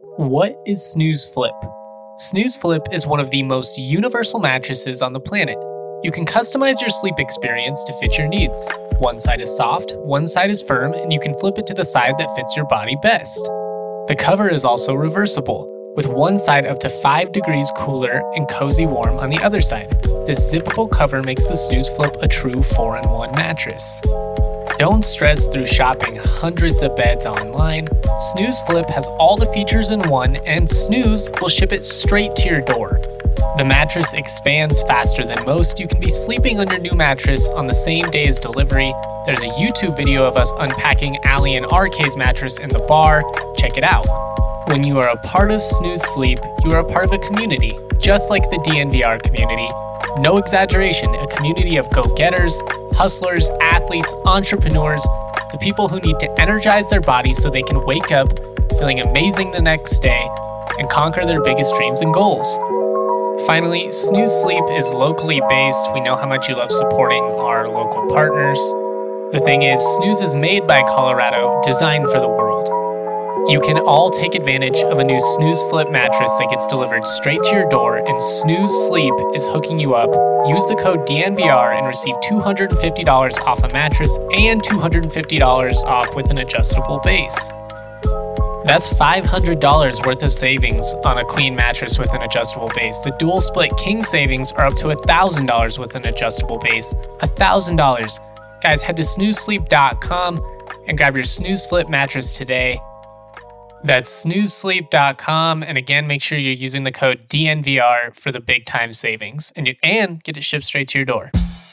What is Snooze Flip? Snooze Flip is one of the most universal mattresses on the planet. You can customize your sleep experience to fit your needs. One side is soft, one side is firm, and you can flip it to the side that fits your body best. The cover is also reversible, with one side up to 5 degrees cooler and cozy warm on the other side. This zippable cover makes the Snooze Flip a true 4-in-1 mattress. Don't stress through shopping hundreds of beds online. Snooze Flip has all the features in one, and Snooze will ship it straight to your door. The mattress expands faster than most. You can be sleeping on your new mattress on the same day as delivery. There's a YouTube video of us unpacking Allie and RK's mattress in the bar. Check it out. When you are a part of Snooze Sleep, you are a part of a community, just like the DNVR community. No exaggeration, a community of go-getters, hustlers, athletes, entrepreneurs, the people who need to energize their bodies so they can wake up feeling amazing the next day and conquer their biggest dreams and goals. Finally, Snooze Sleep is locally based. We know how much you love supporting our local partners. The thing is, Snooze is made by Colorado, designed for the world. You can all take advantage of a new Snooze Flip mattress that gets delivered straight to your door, and Snooze Sleep is hooking you up. Use the code DNVR and receive $250 off a mattress and $250 off with an adjustable base. That's $500 worth of savings on a queen mattress with an adjustable base. The dual split king savings are up to $1,000 with an adjustable base. $1,000. Guys, head to snoozesleep.com and grab your Snooze Flip mattress today. That's snoozesleep.com, and again, make sure you're using the code DNVR for the big time savings, and get it shipped straight to your door.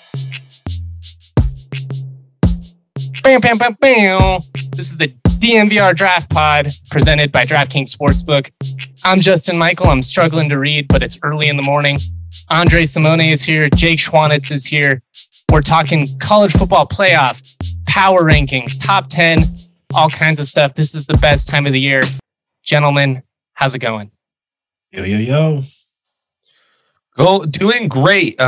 Bam, bam, bam, bam. This is the DNVR Draft Pod presented by DraftKings Sportsbook. I'm Justin Michael. I'm struggling to read, but it's early in the morning. Andre Simone is here. Jake Schwanitz is here. We're talking college football playoff, power rankings, top 10. All kinds of stuff. This is the best time of the year. Gentlemen, how's it going? Yo. Doing great.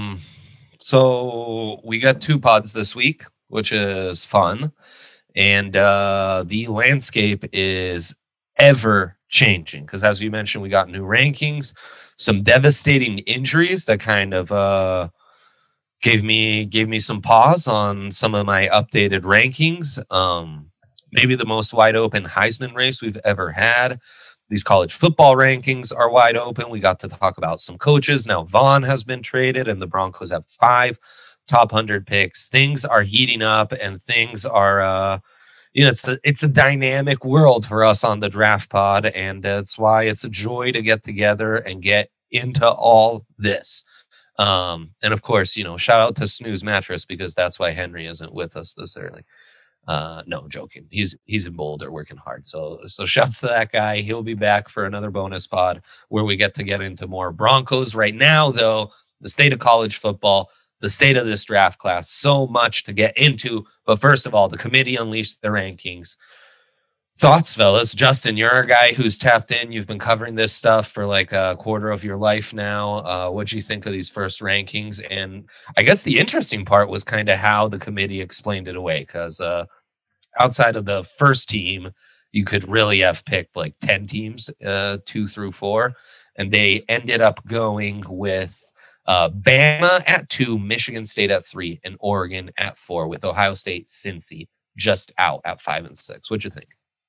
So we got 2 pods this week, which is fun. And the landscape is ever changing. Because as you mentioned, we got new rankings, some devastating injuries that kind of gave me some pause on some of my updated rankings. Maybe the most wide open Heisman race we've ever had. These college football rankings are wide open. We got to talk about some coaches. Now Vaughn has been traded and the Broncos have 5 top 100 picks. Things are heating up and things are, it's a dynamic world for us on the Draft Pod. And that's why it's a joy to get together and get into all this. And of course, shout out to Snooze Mattress because that's why Henry isn't with us this early. No, joking. He's in Boulder working hard. So shouts to that guy. He'll be back for another bonus pod where we get into more Broncos. Right now, though, the state of college football, the state of this draft class, so much to get into. But first of all, the committee unleashed the rankings. Thoughts, fellas? Justin, you're a guy who's tapped in. You've been covering this stuff for like a quarter of your life now. What do you think of these first rankings? And I guess the interesting part was kind of how the committee explained it away, because outside of the first team, you could really have picked like 10 teams, 2 through 4. And they ended up going with Bama at 2, Michigan State at 3, and Oregon at 4, with Ohio State, Cincy just out at 5 and 6. What'd you think?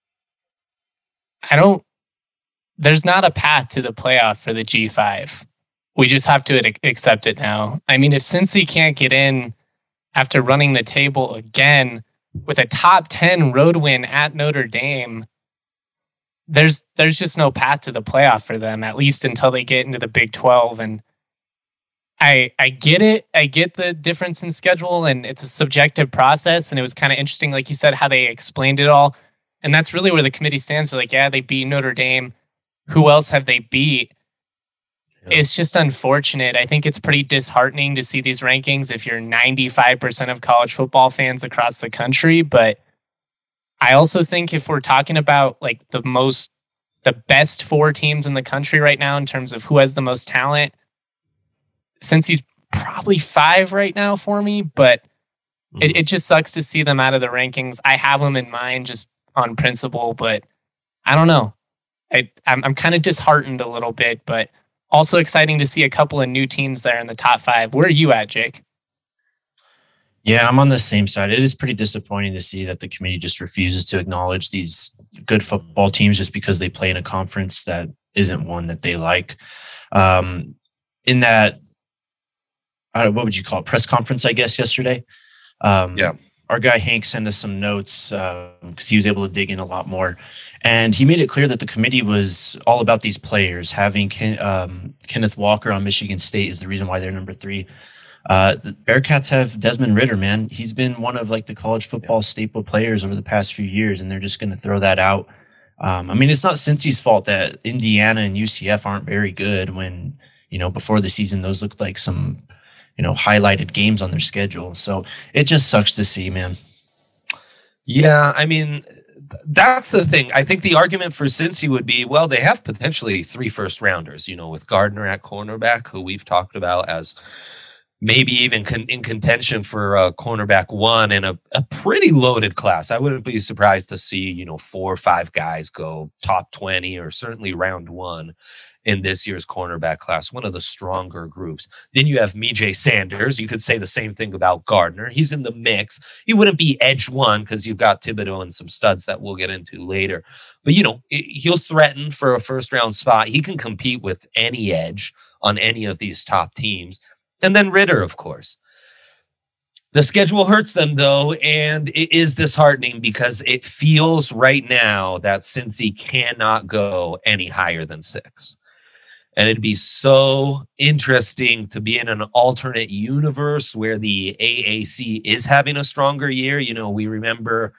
There's not a path to the playoff for the G5. We just have to accept it now. I mean, if Cincy can't get in after running the table again with a top 10 road win at Notre Dame, there's just no path to the playoff for them, at least until they get into the Big 12. And I get it. I get the difference in schedule, and it's a subjective process. And it was kind of interesting, like you said, how they explained it all. And that's really where the committee stands. They're like, yeah, they beat Notre Dame. Who else have they beat? Yeah. It's just unfortunate. I think it's pretty disheartening to see these rankings if you're 95% of college football fans across the country. But I also think if we're talking about like the best 4 teams in the country right now in terms of who has the most talent, since he's probably 5 right now for me, but it just sucks to see them out of the rankings. I have them in mind just on principle, but I don't know. I'm kind of disheartened a little bit, but also exciting to see a couple of new teams there in the top 5. Where are you at, Jake? Yeah, I'm on the same side. It is pretty disappointing to see that the committee just refuses to acknowledge these good football teams just because they play in a conference that isn't one that they like. In that, what would you call it? Press conference, I guess, yesterday. Our guy Hank sent us some notes because he was able to dig in a lot more. And he made it clear that the committee was all about these players. Having Kenneth Walker on Michigan State is the reason why they're number 3. The Bearcats have Desmond Ridder, man. He's been one of like the college football staple players over the past few years, and they're just going to throw that out. I mean, it's not Cincy's fault that Indiana and UCF aren't very good when, before the season, those looked like some, highlighted games on their schedule. So it just sucks to see, man. Yeah, I mean, that's the thing. I think the argument for Cincy would be, well, they have potentially 3 first-rounders, with Gardner at cornerback, who we've talked about as maybe even in contention for cornerback 1 in a pretty loaded class. I wouldn't be surprised to see, 4 or 5 guys go top 20 or certainly round 1 in this year's cornerback class, one of the stronger groups. Then you have Mijay Sanders. You could say the same thing about Gardner. He's in the mix. He wouldn't be edge 1 because you've got Thibodeau and some studs that we'll get into later. But, he'll threaten for a first-round spot. He can compete with any edge on any of these top teams. And then Ridder, of course. The schedule hurts them, though, and it is disheartening because it feels right now that Cincy cannot go any higher than 6. And it'd be so interesting to be in an alternate universe where the AAC is having a stronger year. We remember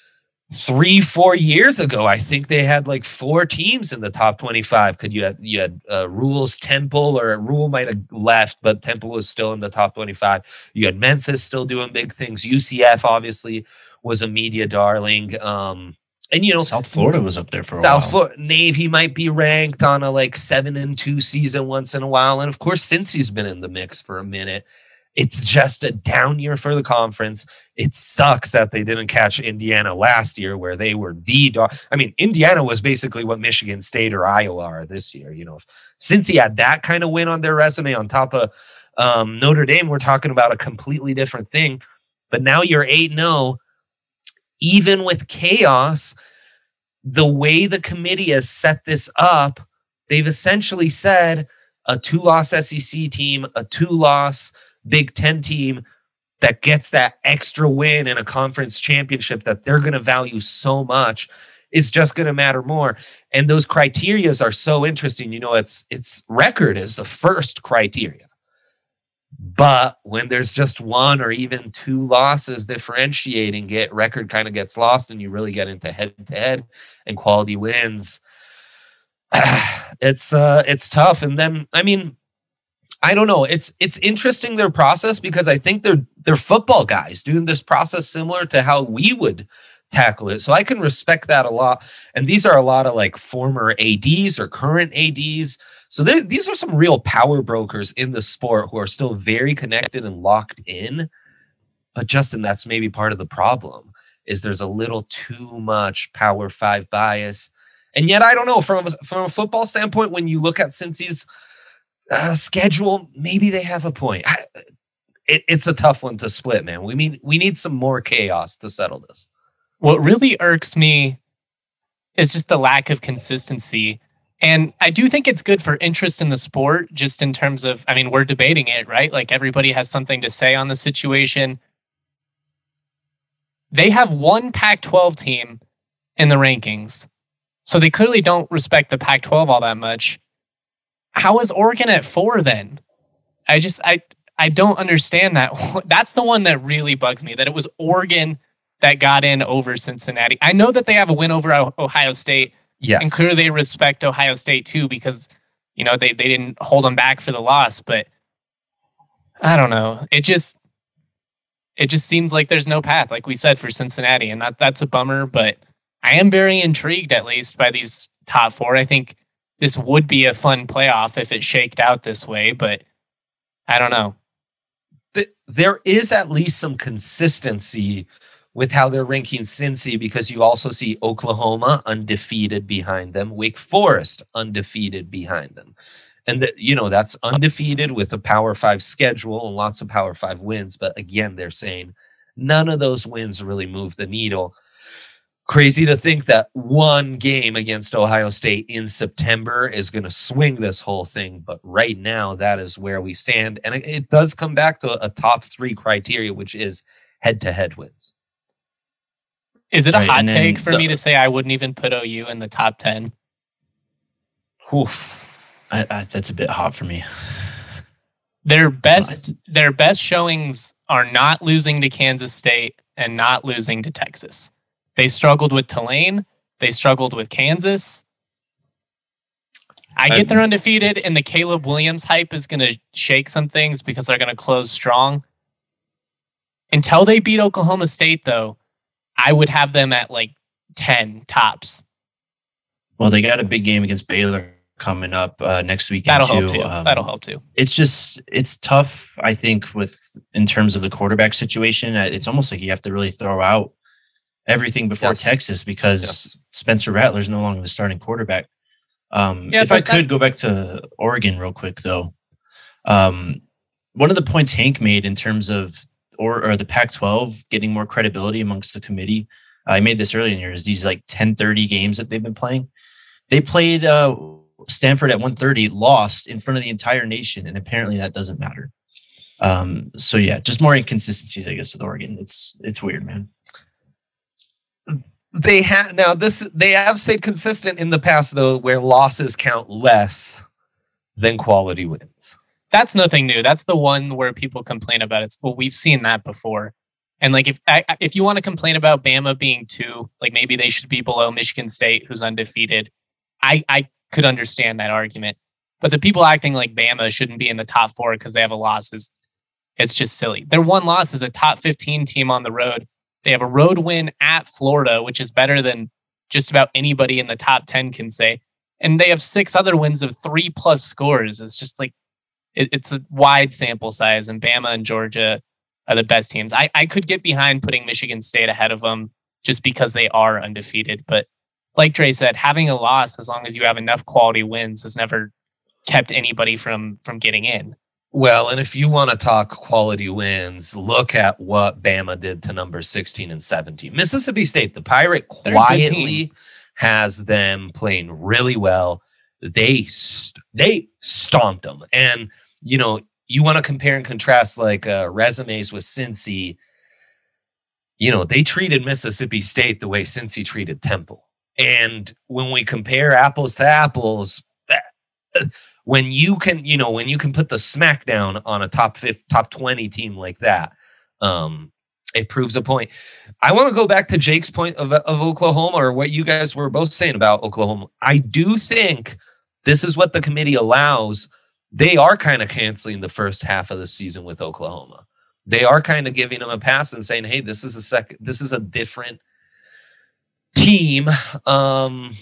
3-4 years ago, I think they had like 4 teams in the top 25. You had Rule's Temple, or Rule might have left, but Temple was still in the top 25. You had Memphis still doing big things. UCF obviously was a media darling. And South Florida was up there for a while. Navy might be ranked on a 7-2 season once in a while. And of course, Cincy's been in the mix for a minute. It's just a down year for the conference. It sucks that they didn't catch Indiana last year, where they were the dog. I mean, Indiana was basically what Michigan State or Iowa are this year. If Cincy had that kind of win on their resume on top of Notre Dame, we're talking about a completely different thing. But now you're 8-0. Even with chaos, the way the committee has set this up, they've essentially said a 2-loss SEC team, a 2-loss Big Ten team that gets that extra win in a conference championship that they're going to value so much is just going to matter more. And those criterias are so interesting. It's record is the first criteria. But when there's just 1 or even 2 losses differentiating it, record kind of gets lost and you really get into head-to-head and quality wins. It's tough. And then, I mean, I don't know. It's interesting, their process, because I think they're football guys doing this process similar to how we would tackle it. So I can respect that a lot. And these are a lot of former ADs or current ADs. So these are some real power brokers in the sport who are still very connected and locked in. But Justin, that's maybe part of the problem, is there's a little too much Power 5 bias. And yet, I don't know, from a football standpoint, when you look at Cincy's schedule, maybe they have a point. It's a tough one to split, man. We need some more chaos to settle this. What really irks me is just the lack of consistency. And I do think it's good for interest in the sport, just in terms of, I mean, we're debating it, right? Everybody has something to say on the situation. They have one Pac-12 team in the rankings, so they clearly don't respect the Pac-12 all that much. How is Oregon at 4 then? I don't understand that. That's the one that really bugs me, that it was Oregon that got in over Cincinnati. I know that they have a win over Ohio State. Yes. And clearly they respect Ohio State too, because, they didn't hold them back for the loss. But I don't know. It just seems like there's no path, like we said, for Cincinnati. And that's a bummer, but I am very intrigued, at least, by these top 4. I think this would be a fun playoff if it shaked out this way, but I don't know. There is at least some consistency with how they're ranking Cincy, because you also see Oklahoma undefeated behind them, Wake Forest undefeated behind them. And that's undefeated with a Power 5 schedule and lots of Power 5 wins. But again, they're saying none of those wins really move the needle. Crazy to think that one game against Ohio State in September is going to swing this whole thing. But right now, that is where we stand. And it does come back to a top 3 criteria, which is head-to-head wins. Is it a hot take for me to say I wouldn't even put OU in the top 10? Oof. That's a bit hot for me. Their best showings are not losing to Kansas State and not losing to Texas. They struggled with Tulane. They struggled with Kansas. I get they're undefeated, and the Caleb Williams hype is going to shake some things because they're going to close strong. Until they beat Oklahoma State, though, I would have them at like 10 tops. Well, they got a big game against Baylor coming up next weekend. That'll help too. It's tough, I think, in terms of the quarterback situation. It's almost like you have to really throw out everything before Texas because Spencer Rattler's no longer the starting quarterback. If I could go back to Oregon real quick, though, one of the points Hank made in terms of or the Pac-12 getting more credibility amongst the committee, I made this earlier in the year, is these like 10:30 games that they've been playing. They played Stanford at 1:30, lost in front of the entire nation, and apparently that doesn't matter. So yeah, just more inconsistencies, I guess, with Oregon. It's weird, man. They have stayed consistent in the past, though, where losses count less than quality wins. That's nothing new. That's the one where people complain about it. Well, we've seen that before. And like, if you want to complain about Bama being 2, like maybe they should be below Michigan State, who's undefeated. I could understand that argument. But the people acting like Bama shouldn't be in the top 4 because they have a loss it's just silly. Their one loss is a top 15 team on the road. They have a road win at Florida, which is better than just about anybody in the top 10 can say. And they have 6 other wins of 3+ scores. It's just like, it's a wide sample size, and Bama and Georgia are the best teams. I could get behind putting Michigan State ahead of them just because they are undefeated. But like Dre said, having a loss, as long as you have enough quality wins, has never kept anybody from getting in. Well, and if you want to talk quality wins, look at what Bama did to numbers 16 and 17. Mississippi State, the Pirate, quietly has them playing really well. They stomped them. And, you want to compare and contrast like resumes with Cincy. They treated Mississippi State the way Cincy treated Temple. And when we compare apples to apples, when you can put the smackdown on a top 20 team like that, it proves a point. I want to go back to Jake's point of Oklahoma, or what you guys were both saying about Oklahoma. I do think this is what the committee allows. They are kind of canceling the first half of the season with Oklahoma. They are kind of giving them a pass and saying, hey, this is a different team. And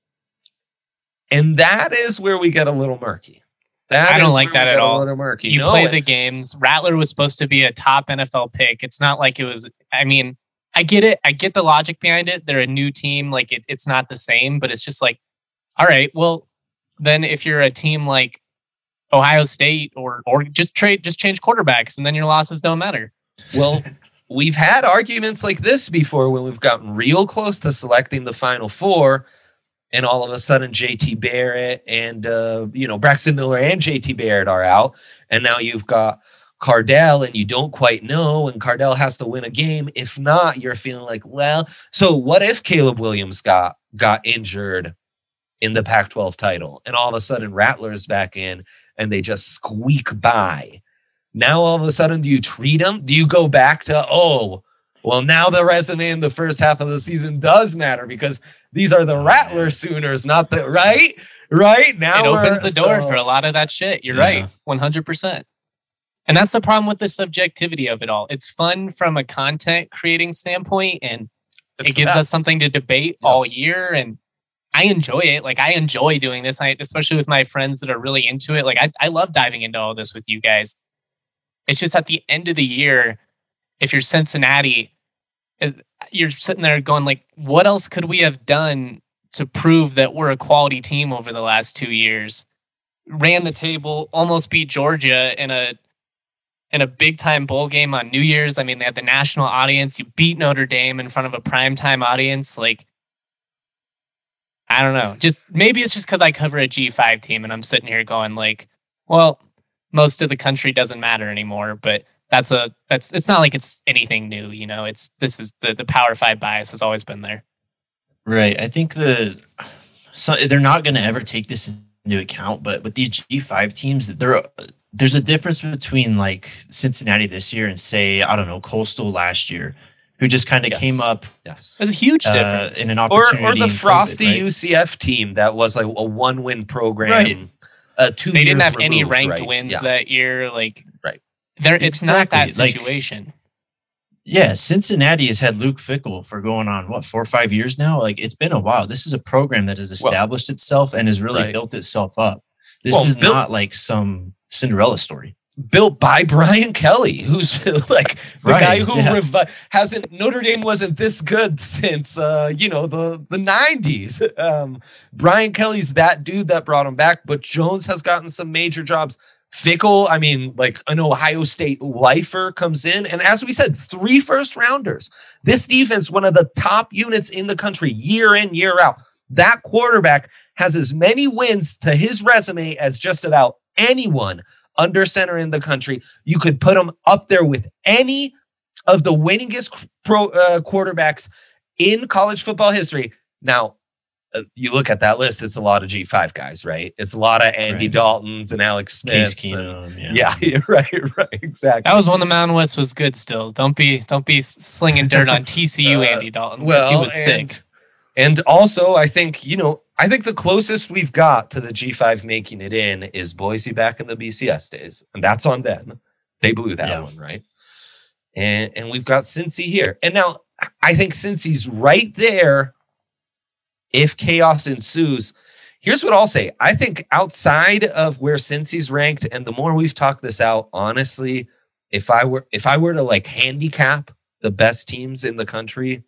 that is where we get a little murky. I don't like that at all. You play the it. games. Rattler was supposed to be a top NFL pick. It's not like it was. I mean, I get it. I get the logic behind it. They're a new team. Like it's not the same, but it's just like, all right, well, then if you're a team like Ohio State or just change quarterbacks, and then your losses don't matter. Well, we've had arguments like this before when we've gotten real close to selecting the Final Four. And all of a sudden, JT Barrett and, Braxton Miller and JT Barrett are out. And now you've got Cardell, and you don't quite know. And Cardell has to win a game. If not, you're feeling like, well, so what if Caleb Williams got injured in the Pac-12 title? And all of a sudden, Rattler's back in, and they just squeak by. Now, all of a sudden, do you treat them? Do you go back to, well, now the resume in the first half of the season does matter because these are the Rattler Sooners, not the right. Now it opens the door for a lot of that shit. You're right, 100%. And that's the problem with the subjectivity of it all. It's fun from a content creating standpoint, and it gives us something to debate all year. And I enjoy it. Like I enjoy doing this, especially with my friends that are really into it. Like I love diving into all this with you guys. It's just at the end of the year, if you're Cincinnati, you're sitting there going like, what else could we have done to prove that we're a quality team over the last 2 years? Ran the table, almost beat Georgia in a big time bowl game on New Year's. I mean, they had the national audience. You beat Notre Dame in front of a primetime audience. Like, I don't know. Just maybe it's just because I cover a G5 team and I'm sitting here going like, well, most of the country doesn't matter anymore. But it's not like it's anything new. You know, this is the Power 5 bias has always been there. Right. I think they're not going to ever take this into account, but with these G5 teams, there's a difference between like Cincinnati this year and say, I don't know, Coastal last year, who just kind of came up. Yes. There's a huge difference. In an opportunity. Or the frosty UCF team that was like a 1-win program. Right. 2 they years didn't have removed, any ranked right? wins that year. Like, right. It's not that situation. Yeah, Cincinnati has had Luke Fickell for going on 4 or 5 years now. Like, it's been a while. This is a program that has established itself and has really built itself up. This is not like some Cinderella story. Built by Brian Kelly, who's like the guy who hasn't. Notre Dame wasn't this good since the 90s. Brian Kelly's that dude that brought him back, but Jones has gotten some major jobs. Fickell, I mean, like an Ohio State lifer comes in. And as we said, 3 first-rounders. This defense, one of the top units in the country, year in, year out. That quarterback has as many wins to his resume as just about anyone under center in the country. You could put him up there with any of the winningest quarterbacks in college football history. Now, you look at that list, it's a lot of G5 guys, right? It's a lot of Andy Daltons and Alex Smiths. Case Keenum, right, exactly. That was when the Mountain West was good still. Don't be slinging dirt on TCU Andy Dalton. Well, he was sick. And also, I think the closest we've got to the G5 making it in is Boise back in the BCS days. And that's on them. They blew that one, right? And we've got Cincy here. And now I think Cincy's right there. If chaos ensues, here's what I'll say. I think outside of where Cincy's ranked, and the more we've talked this out, honestly, if I were to like handicap the best teams in the country,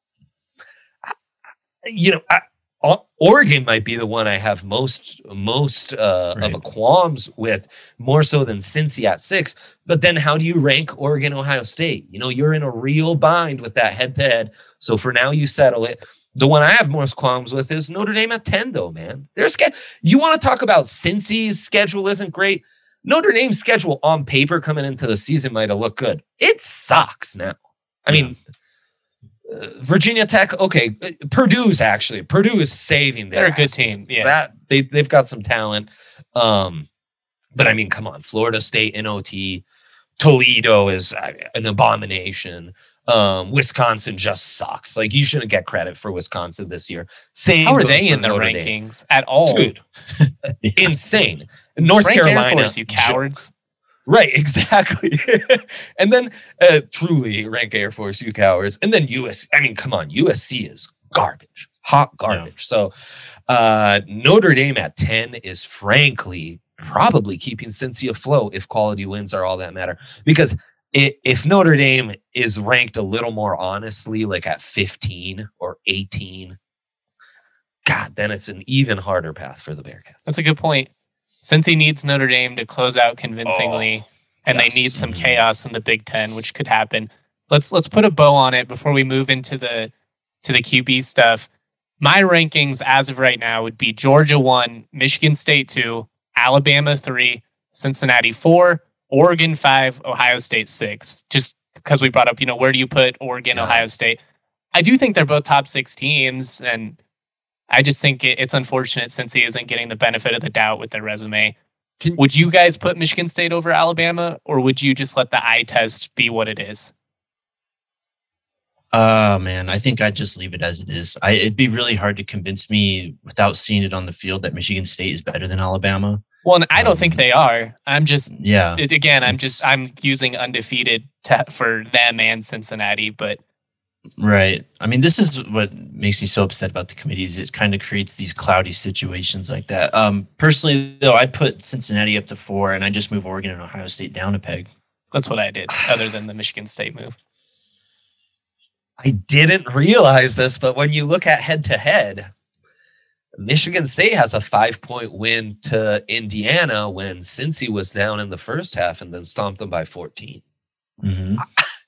Oregon might be the one I have most of a qualms with, more so than Cincy at 6. But then how do you rank Oregon, Ohio State? You're in a real bind with that head-to-head. So for now, you settle it. The one I have most qualms with is Notre Dame at 10, though, man. You want to talk about Cincy's schedule isn't great? Notre Dame's schedule on paper coming into the season might have looked good. It sucks now. I mean, Virginia Tech, okay. Purdue is saving their They're a good team. Yeah. They've got some talent. But I mean, come on. Florida State, NOT. Toledo is an abomination. Wisconsin just sucks. Like, you shouldn't get credit for Wisconsin this year. How are they in the rankings at all? Dude, insane. North Carolina, Air Force, you cowards. Right, exactly. And then truly rank Air Force, you cowards. And then I mean, come on, USC is garbage, hot garbage. Yeah. So Notre Dame at 10 is frankly probably keeping Cincy afloat if quality wins are all that matter. Because if Notre Dame is ranked a little more honestly, like at 15 or 18, God, then it's an even harder path for the Bearcats. That's a good point. Cincy needs Notre Dame to close out convincingly, and they need some chaos in the Big Ten, which could happen. Let's put a bow on it before we move into the QB stuff. My rankings as of right now would be Georgia 1, Michigan State 2, Alabama 3, Cincinnati 4, Oregon 5, Ohio State 6. Just because we brought up, where do you put Oregon, Ohio State? I do think they're both top 6 teams, and I just think it's unfortunate Cincy isn't getting the benefit of the doubt with their resume. Would you guys put Michigan State over Alabama, or would you just let the eye test be what it is? Man, I think I'd just leave it as it is. It'd be really hard to convince me without seeing it on the field that Michigan State is better than Alabama. Well, and I don't think they are. I'm just, I'm using undefeated for them and Cincinnati, but. Right. I mean, this is what makes me so upset about the committees. It kind of creates these cloudy situations like that. Personally, though, I'd put Cincinnati up to 4, and I just move Oregon and Ohio State down a peg. That's what I did, other than the Michigan State move. I didn't realize this, but when you look at head-to-head, Michigan State has a 5-point win to Indiana when Cincy was down in the first half and then stomped them by 14. Mm-hmm.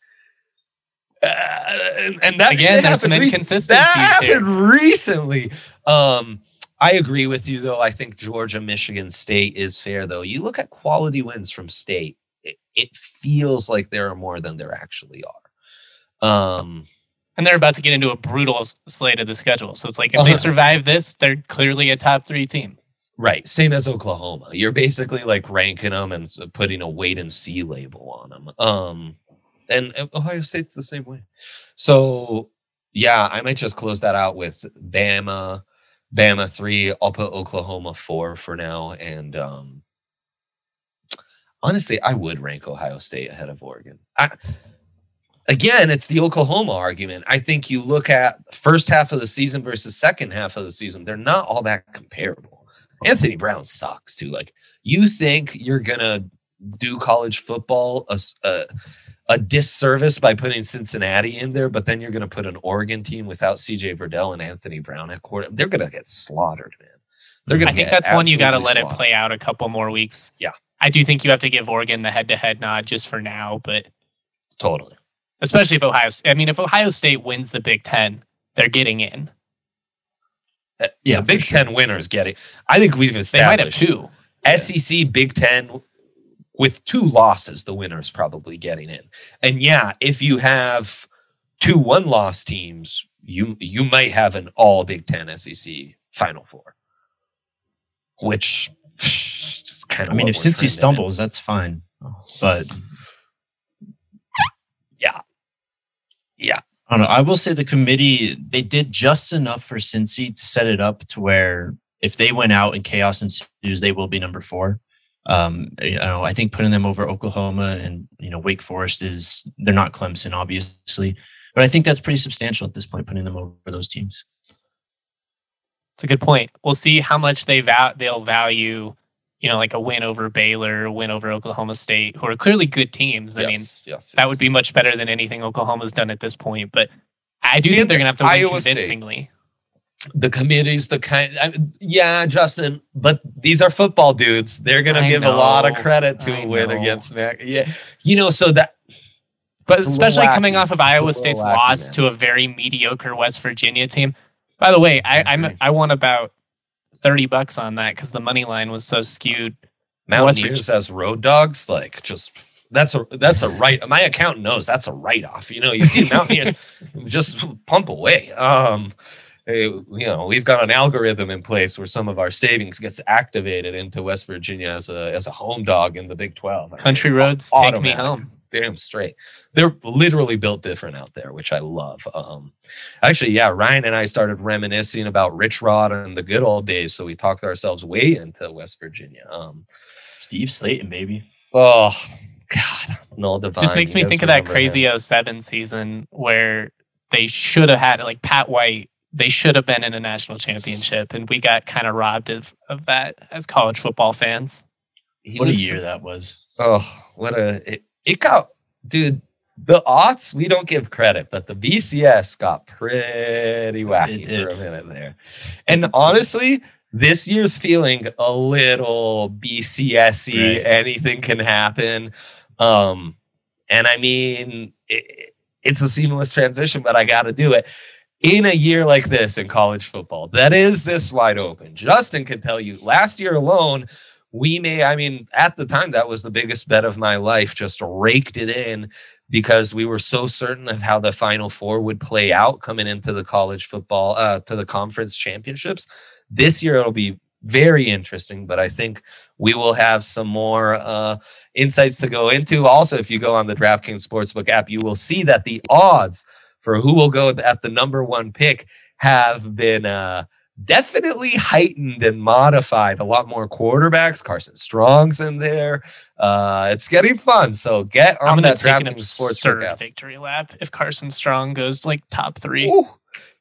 And that again, there's some inconsistencies. That happened recently. I agree with you, though. I think Georgia, Michigan State is fair, though. You look at quality wins from State, it feels like there are more than there actually are. And they're about to get into a brutal slate of the schedule. So it's like, if they survive this, they're clearly a top 3 team. Right. Same as Oklahoma. You're basically like ranking them and putting a wait and see label on them. And Ohio State's the same way. So, yeah, I might just close that out with Bama 3. I'll put Oklahoma 4 for now. And honestly, I would rank Ohio State ahead of Oregon. Again, it's the Oklahoma argument. I think you look at first half of the season versus second half of the season, they're not all that comparable. Anthony Brown sucks too. Like, you think you're going to do college football a disservice by putting Cincinnati in there, but then you're going to put an Oregon team without CJ Verdell and Anthony Brown at quarter. They're going to get slaughtered, man. I think that's one you got to let it play out a couple more weeks. Yeah. I do think you have to give Oregon the head-to-head nod just for now, but totally. Especially if if Ohio State wins the Big Ten, they're getting in. Yeah, Big Ten winners get it. I think we've established. They might have 2. SEC, Big Ten, with 2 losses, the winner's probably getting in. And yeah, if you have 2 1-loss teams, you might have an all Big Ten SEC Final Four, which is kind of. If Cincy stumbles, that's fine, but. Yeah. I don't know. I will say the committee, they did just enough for Cincy to set it up to where if they went out and chaos ensues, they will be number 4. I think putting them over Oklahoma and, Wake Forest they're not Clemson, obviously, but I think that's pretty substantial at this point, putting them over those teams. It's a good point. We'll see how much they'll value, like a win over Baylor, a win over Oklahoma State, who are clearly good teams. That would be much better than anything Oklahoma's done at this point. But I do think they're going to have to win convincingly. The committee's the kind. Justin, but these are football dudes. They're going to give a lot of credit to a win against Mac. Yeah. So that. But especially coming off of Iowa State's loss to a very mediocre West Virginia team. By the way, I won about $30 on that because the money line was so skewed. Mountaineers as road dogs, that's a right. My accountant knows that's a write-off. You see Mountaineers just pump away. We've got an algorithm in place where some of our savings gets activated into West Virginia as a home dog in the Big 12. Country roads take me home. Damn straight. They're literally built different out there, which I love. Ryan and I started reminiscing about Rich Rod and the good old days, so we talked ourselves way into West Virginia. Steve Slayton, baby. Oh God, Noel Devine. Just makes me think of that crazy 07 season where they should have had Pat White. They should have been in a national championship, and we got kind of robbed of that as college football fans. What a year that was! Oh, it got, dude. The aughts, we don't give credit, but the BCS got pretty wacky for a minute there. And honestly, this year's feeling a little BCS-y. Right. Anything can happen. It's a seamless transition, but I got to do it. In a year like this in college football, that is this wide open. Justin can tell you, last year alone, at the time, that was the biggest bet of my life, just raked it in because we were so certain of how the Final Four would play out coming into the college football, to the conference championships. This year, it'll be very interesting, but I think we will have some more insights to go into. Also, if you go on the DraftKings Sportsbook app, you will see that the odds for who will go at the number 1 pick have been definitely heightened and modified. A lot more quarterbacks. Carson Strong's in there. It's getting fun. So get on that DraftKings Sportsbook app. Victory lap if Carson Strong goes top 3. Ooh,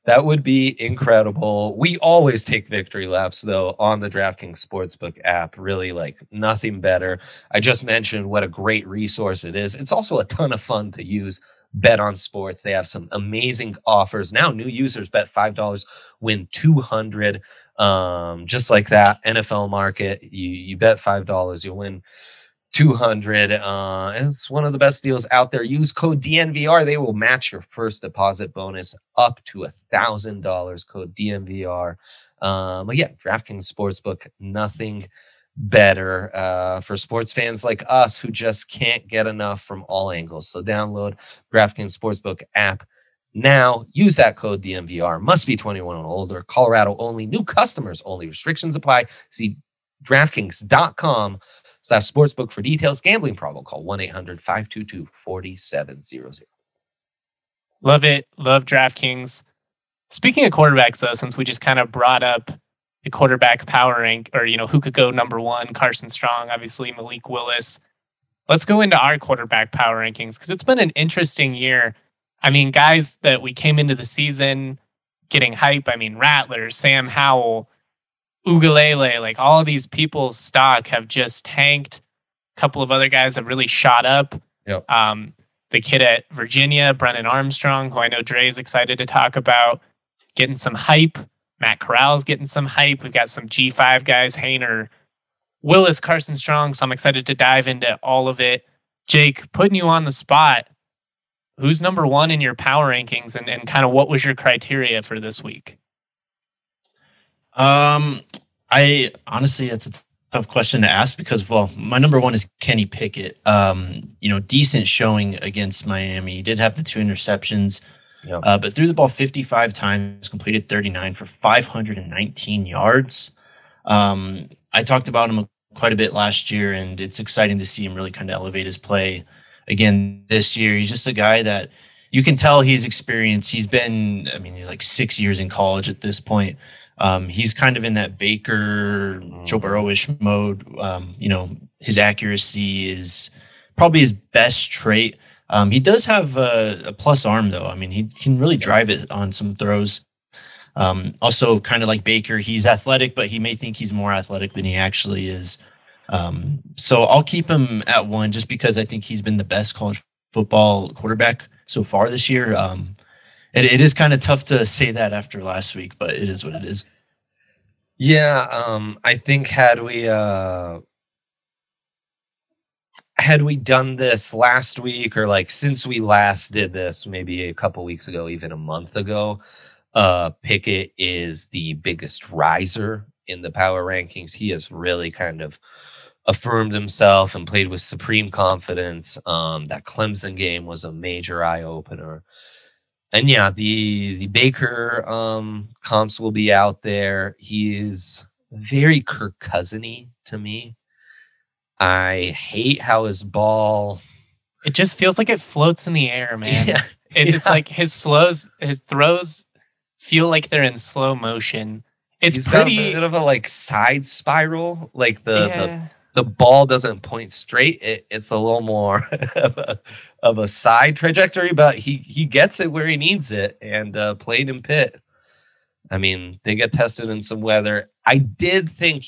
That would be incredible. We always take victory laps, though, on the DraftKings Sportsbook app. Really, like nothing better. I just mentioned what a great resource it is. It's also a ton of fun to use. Bet on sports. They have some amazing offers. Now, new users bet $5, win $200. Just like that. NFL market, you bet $5, you'll win 200. It's one of the best deals out there. Use code DNVR. They will match your first deposit bonus up to $1,000. Code DNVR. Again, DraftKings Sportsbook, nothing better for sports fans like us who just can't get enough from all angles. So download DraftKings Sportsbook app now. Use that code DNVR. Must be 21 and older. Colorado only. New customers only. Restrictions apply. See DraftKings.com/sportsbook for details. Gambling problem. Call 1-800-522-4700. Love it. Love DraftKings. Speaking of quarterbacks, though, since we just kind of brought up the quarterback power rank, or, who could go number one, Carson Strong, obviously Malik Willis. Let's go into our quarterback power rankings because it's been an interesting year. I mean, guys that we came into the season getting hype. I mean, Rattler, Sam Howell, Ugalele, like all of these people's stock have just tanked. A couple of other guys have really shot up. Yep. The kid at Virginia, Brennan Armstrong, who I know Dre is excited to talk about, getting some hype. Matt Corral's getting some hype. We've got some G5 guys, Hainer, Willis, Carson Strong. So I'm excited to dive into all of it. Jake, putting you on the spot, who's number one in your power rankings and kind of what was your criteria for this week? I honestly, it's a tough question to ask because, my number one is Kenny Pickett. Decent showing against Miami. He did have the 2 interceptions. Yep. But threw the ball 55 times, completed 39 for 519 yards. I talked about him quite a bit last year, and it's exciting to see him really kind of elevate his play again this year. He's just a guy that you can tell he's experienced. He's like 6 years in college at this point. He's kind of in that Baker, Joe Burrow-ish mode. His accuracy is probably his best trait. He does have a plus arm, though. I mean, he can really drive it on some throws. Also, kind of like Baker, he's athletic, but he may think he's more athletic than he actually is. So I'll keep him at 1 just because I think he's been the best college football quarterback so far this year. It is kind of tough to say that after last week, but it is what it is. Yeah, I think had we done this last week or like since we last did this, maybe a couple weeks ago, even a month ago, Pickett is the biggest riser in the power rankings. He has really kind of affirmed himself and played with supreme confidence. That Clemson game was a major eye opener. And yeah, the Baker comps will be out there. He is very Kirk Cousiny to me. I hate how his ball... It just feels like it floats in the air, man. Yeah. It's like his throws feel like they're in slow motion. He's got a bit of a side spiral. Like the ball doesn't point straight. It's a little more of a side trajectory, but he gets it where he needs it. And played in Pitt. I mean, they get tested in some weather. I did think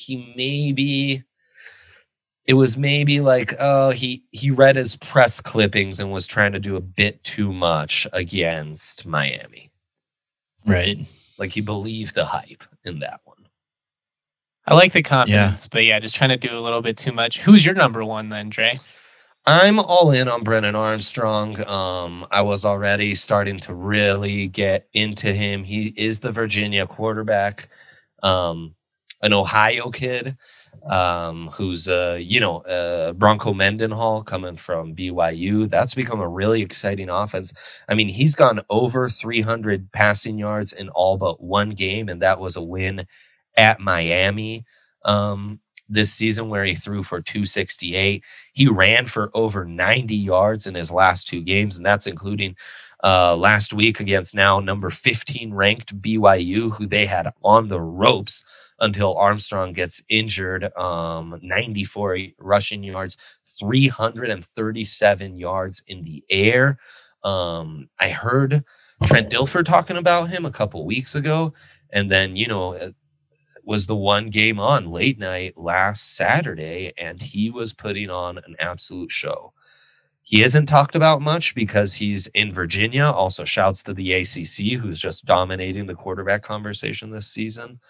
it was maybe like, he read his press clippings and was trying to do a bit too much against Miami. Right. Like he believed the hype in that one. I like the confidence, but just trying to do a little bit too much. Who's your number one then, Dre? I'm all in on Brennan Armstrong. I was already starting to really get into him. He is the Virginia quarterback, an Ohio kid. Who's Bronco Mendenhall coming from BYU. That's become a really exciting offense. I mean, he's gone over 300 passing yards in all but one game, and that was a win at Miami this season where he threw for 268. He ran for over 90 yards in his last 2 games, and that's including last week against now number 15 ranked BYU, who they had on the ropes until Armstrong gets injured. 94 rushing yards, 337 yards in the air. I heard Trent Dilfer talking about him a couple weeks ago. And then, it was the one game on late night last Saturday, and he was putting on an absolute show. He isn't talked about much because he's in Virginia. Also, shouts to the ACC, who's just dominating the quarterback conversation this season.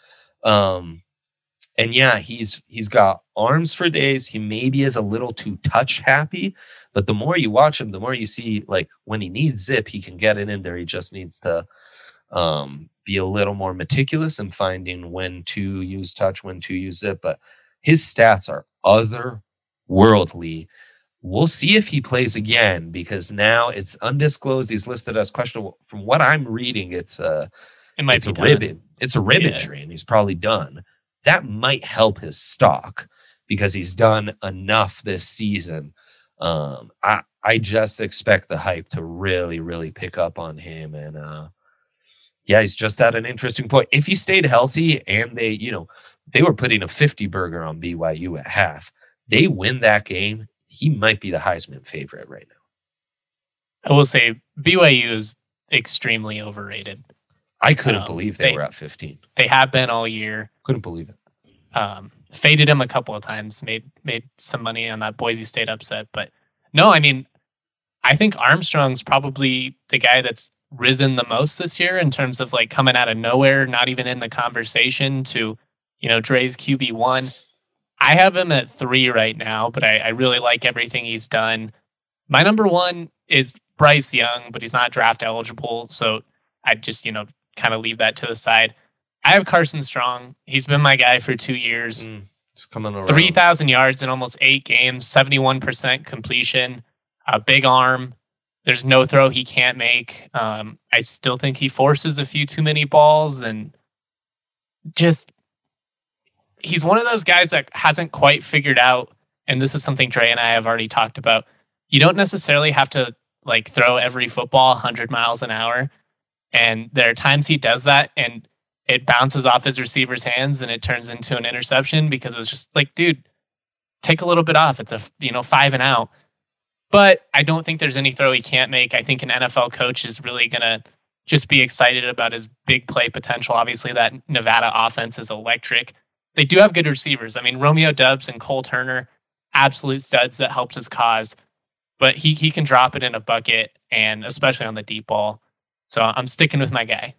And yeah, he's got arms for days. He maybe is a little too touch happy, but the more you watch him, the more you see, like, when he needs zip, he can get it in there. He just needs to be a little more meticulous in finding when to use touch, when to use zip. But his stats are otherworldly. We'll see if he plays again, because now it's undisclosed. He's listed as questionable. From what I'm reading, it's a rib. It's a rib injury, and he's probably done. That might help his stock because he's done enough this season. I just expect the hype to really, really pick up on him. And he's just at an interesting point. If he stayed healthy and they were putting a 50 burger on BYU at half, they win that game, he might be the Heisman favorite right now. I will say BYU is extremely overrated. I couldn't believe they were at 15. They have been all year. Couldn't believe it. Faded him a couple of times, made some money on that Boise State upset. But no, I mean, I think Armstrong's probably the guy that's risen the most this year in terms of like coming out of nowhere, not even in the conversation, to, Dre's QB1. I have him at 3 right now, but I really like everything he's done. My number 1 is Bryce Young, but he's not draft eligible. So I just, kind of leave that to the side. I have Carson Strong. He's been my guy for 2 years. Just coming around. 3,000 yards in almost 8 games, 71% completion, a big arm. There's no throw he can't make. I still think he forces a few too many balls, and just, he's one of those guys that hasn't quite figured out, and this is something Dre and I have already talked about. You don't necessarily have to like throw every football 100 miles an hour. And there are times he does that and it bounces off his receiver's hands and it turns into an interception because it was just like, dude, take a little bit off. It's a 5 and out. But I don't think there's any throw he can't make. I think an NFL coach is really going to just be excited about his big play potential. Obviously, that Nevada offense is electric. They do have good receivers. I mean, Romeo Doubs and Cole Turner, absolute studs that helped his cause. But he can drop it in a bucket, and especially on the deep ball. So I'm sticking with my guy.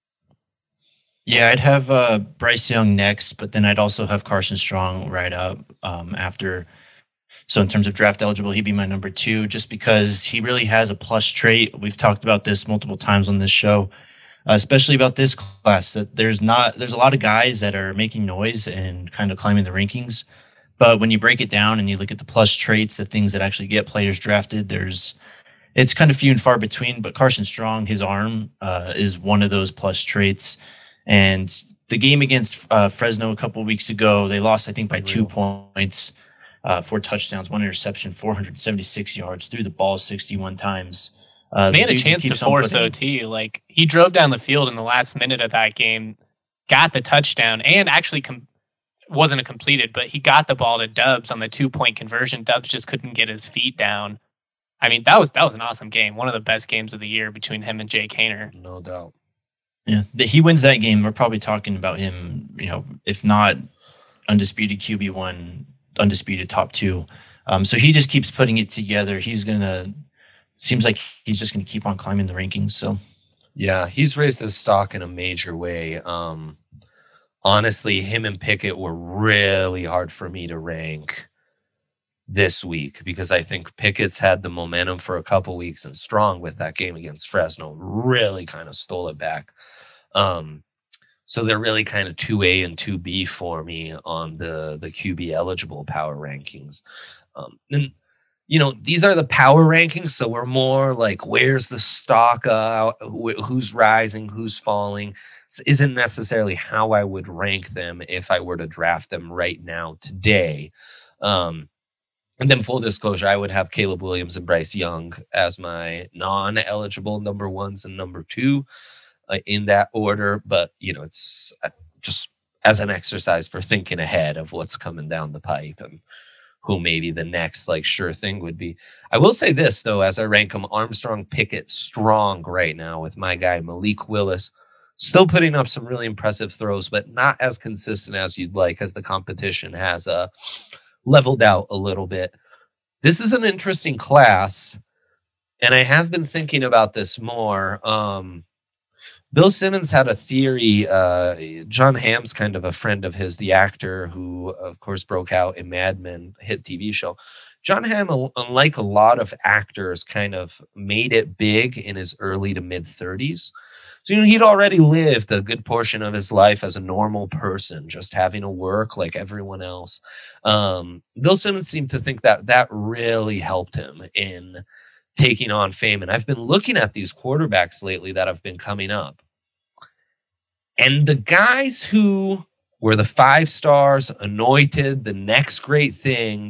Yeah, I'd have Bryce Young next, but then I'd also have Carson Strong right up after. So in terms of draft eligible, he'd be my number 2, just because he really has a plus trait. We've talked about this multiple times on this show, especially about this class, that there's a lot of guys that are making noise and kind of climbing the rankings. But when you break it down and you look at the plus traits, the things that actually get players drafted, it's kind of few and far between. But Carson Strong, his arm is one of those plus traits. And the game against Fresno a couple of weeks ago, they lost, I think, by 2 points, 4 touchdowns, 1 interception, 476 yards, threw the ball 61 times. They had a chance to force OT. Like, he drove down the field in the last minute of that game, got the touchdown, and actually wasn't a completed, but he got the ball to Doubs on the 2-point conversion. Doubs just couldn't get his feet down. I mean, that was an awesome game. One of the best games of the year between him and Jake Haener. No doubt. Yeah, he wins that game. We're probably talking about him, if not undisputed QB1, undisputed top 2. So he just keeps putting it together. Seems like he's just going to keep on climbing the rankings. So yeah, he's raised his stock in a major way. Honestly, him and Pickett were really hard for me to rank this week because I think Pickett's had the momentum for a couple weeks, and Strong with that game against Fresno really kind of stole it back. So they're really kind of 2A and 2B for me on the QB eligible power rankings. And these are the power rankings, so we're more like, where's the stock, who's rising, who's falling. This isn't necessarily how I would rank them if I were to draft them right now today. And then full disclosure, I would have Caleb Williams and Bryce Young as my non-eligible number 1s and number 2 in that order. But, it's just as an exercise for thinking ahead of what's coming down the pipe and who maybe the next like sure thing would be. I will say this though, as I rank them, Armstrong, Pickett, Strong right now with my guy Malik Willis, still putting up some really impressive throws, but not as consistent as you'd like, as the competition has leveled out a little bit. This is an interesting class, and I have been thinking about this more. Bill Simmons had a theory. John Hamm's kind of a friend of his, the actor who, of course, broke out in Mad Men, hit TV show. John Hamm, unlike a lot of actors, kind of made it big in his early to mid 30s. So, he'd already lived a good portion of his life as a normal person, just having to work like everyone else. Bill Simmons seemed to think that really helped him in taking on fame. And I've been looking at these quarterbacks lately that have been coming up. And the guys who were the 5 stars, anointed, the next great thing,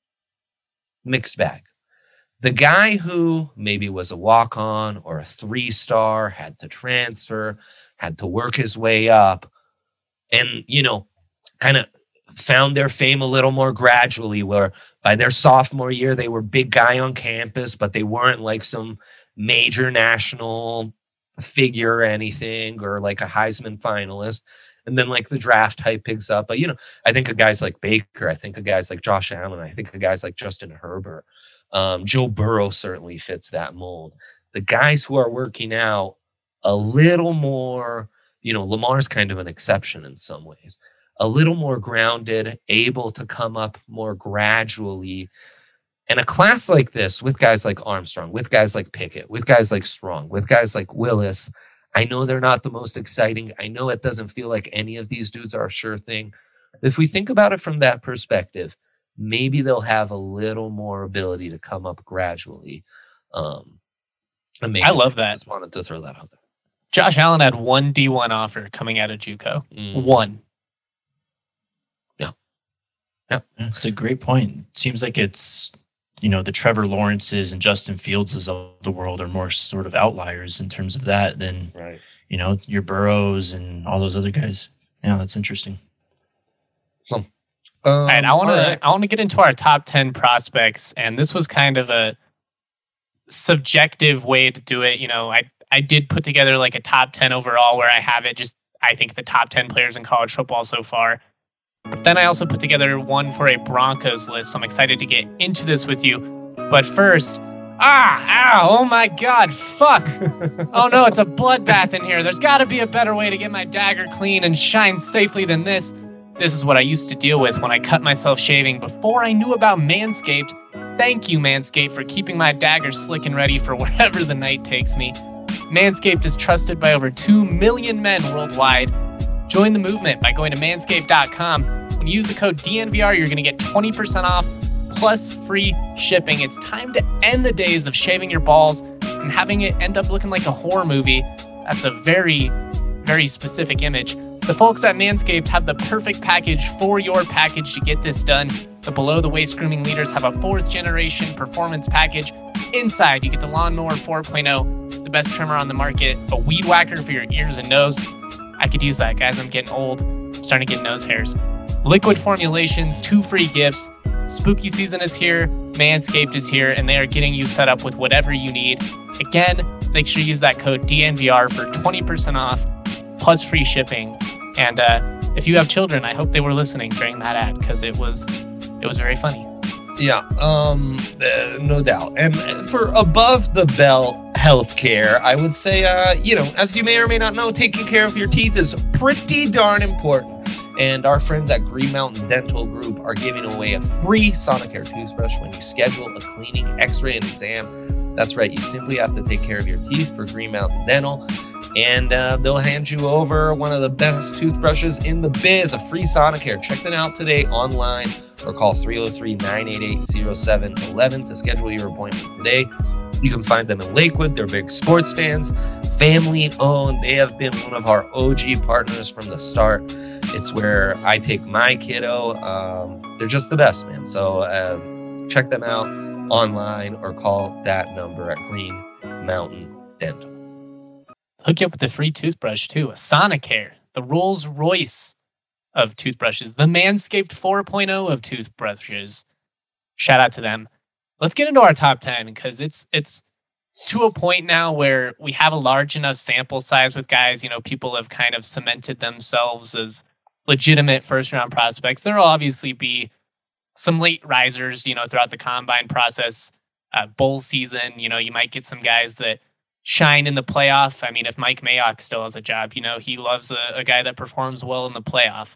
mixed bag. The guy who maybe was a walk-on or a 3-star, had to transfer, had to work his way up, and, kind of found their fame a little more gradually, where by their sophomore year, they were big guy on campus, but they weren't like some major national figure or anything, or like a Heisman finalist. And then like the draft hype picks up. But, I think of guys like Baker. I think of guys like Josh Allen. I think of guys like Justin Herbert. Joe Burrow certainly fits that mold. The guys who are working out a little more, Lamar's kind of an exception in some ways, a little more grounded, able to come up more gradually. And a class like this, with guys like Armstrong, with guys like Pickett, with guys like Strong, with guys like Willis, I know they're not the most exciting. I know it doesn't feel like any of these dudes are a sure thing. If we think about it from that perspective, maybe they'll have a little more ability to come up gradually. I love that. Just wanted to throw that out there. Josh Allen had one D1 offer coming out of JUCO. One. Yeah. It's a great point. It seems like it's, the Trevor Lawrences and Justin Fieldses of the world are more sort of outliers in terms of that than, right. Your Burrows and all those other guys. Yeah, that's interesting. All right, I want to get into our top 10 prospects, and this was kind of a subjective way to do it. I did put together like a top 10 overall where I have it just, I think the top 10 players in college football so far. But then I also put together one for a Broncos list, so I'm excited to get into this with you. But first, oh my God, fuck. Oh no, it's a bloodbath in here. There's got to be a better way to get my dagger clean and shine safely than this. This is what I used to deal with when I cut myself shaving before I knew about Manscaped. Thank you, Manscaped, for keeping my dagger slick and ready for wherever the night takes me. Manscaped is trusted by over 2 million men worldwide. Join the movement by going to manscaped.com. When you use the code DNVR, you're going to get 20% off plus free shipping. It's time to end the days of shaving your balls and having it end up looking like a horror movie. That's a very, very specific image. The folks at Manscaped have the perfect package for your package to get this done. The below-the-waist grooming leaders have a 4th-generation performance package. Inside, you get the Lawnmower 4.0, the best trimmer on the market, a weed whacker for your ears and nose. I could use that, guys. I'm getting old. I'm starting to get nose hairs. Liquid formulations, 2 free gifts. Spooky season is here. Manscaped is here, and they are getting you set up with whatever you need. Again, make sure you use that code DNVR for 20% off plus free shipping. And if you have children, I hope they were listening during that ad because it was very funny. Yeah, no doubt. And for above the belt healthcare, I would say, as you may or may not know, taking care of your teeth is pretty darn important. And our friends at Green Mountain Dental Group are giving away a free Sonicare toothbrush when you schedule a cleaning, x-ray, and exam. That's right. You simply have to take care of your teeth for Green Mountain Dental. And they'll hand you over one of the best toothbrushes in the biz, a free Sonicare. Check them out today online or call 303-988-0711 to schedule your appointment today. You can find them in Lakewood. They're big sports fans, family owned. They have been one of our OG partners from the start. It's where I take my kiddo. They're just the best, man. So check them out online or call that number at Green Mountain Dental. Hook you up with a free toothbrush, too. A Sonicare, the Rolls Royce of toothbrushes, the Manscaped 4.0 of toothbrushes. shout out to them. Let's get into our top 10 because it's to a point now where we have a large enough sample size with guys. People have kind of cemented themselves as legitimate first round prospects. There will obviously be some late risers, throughout the combine process, bowl season. You might get some guys that shine in the playoff. I mean, if Mike Mayock still has a job, he loves a guy that performs well in the playoff.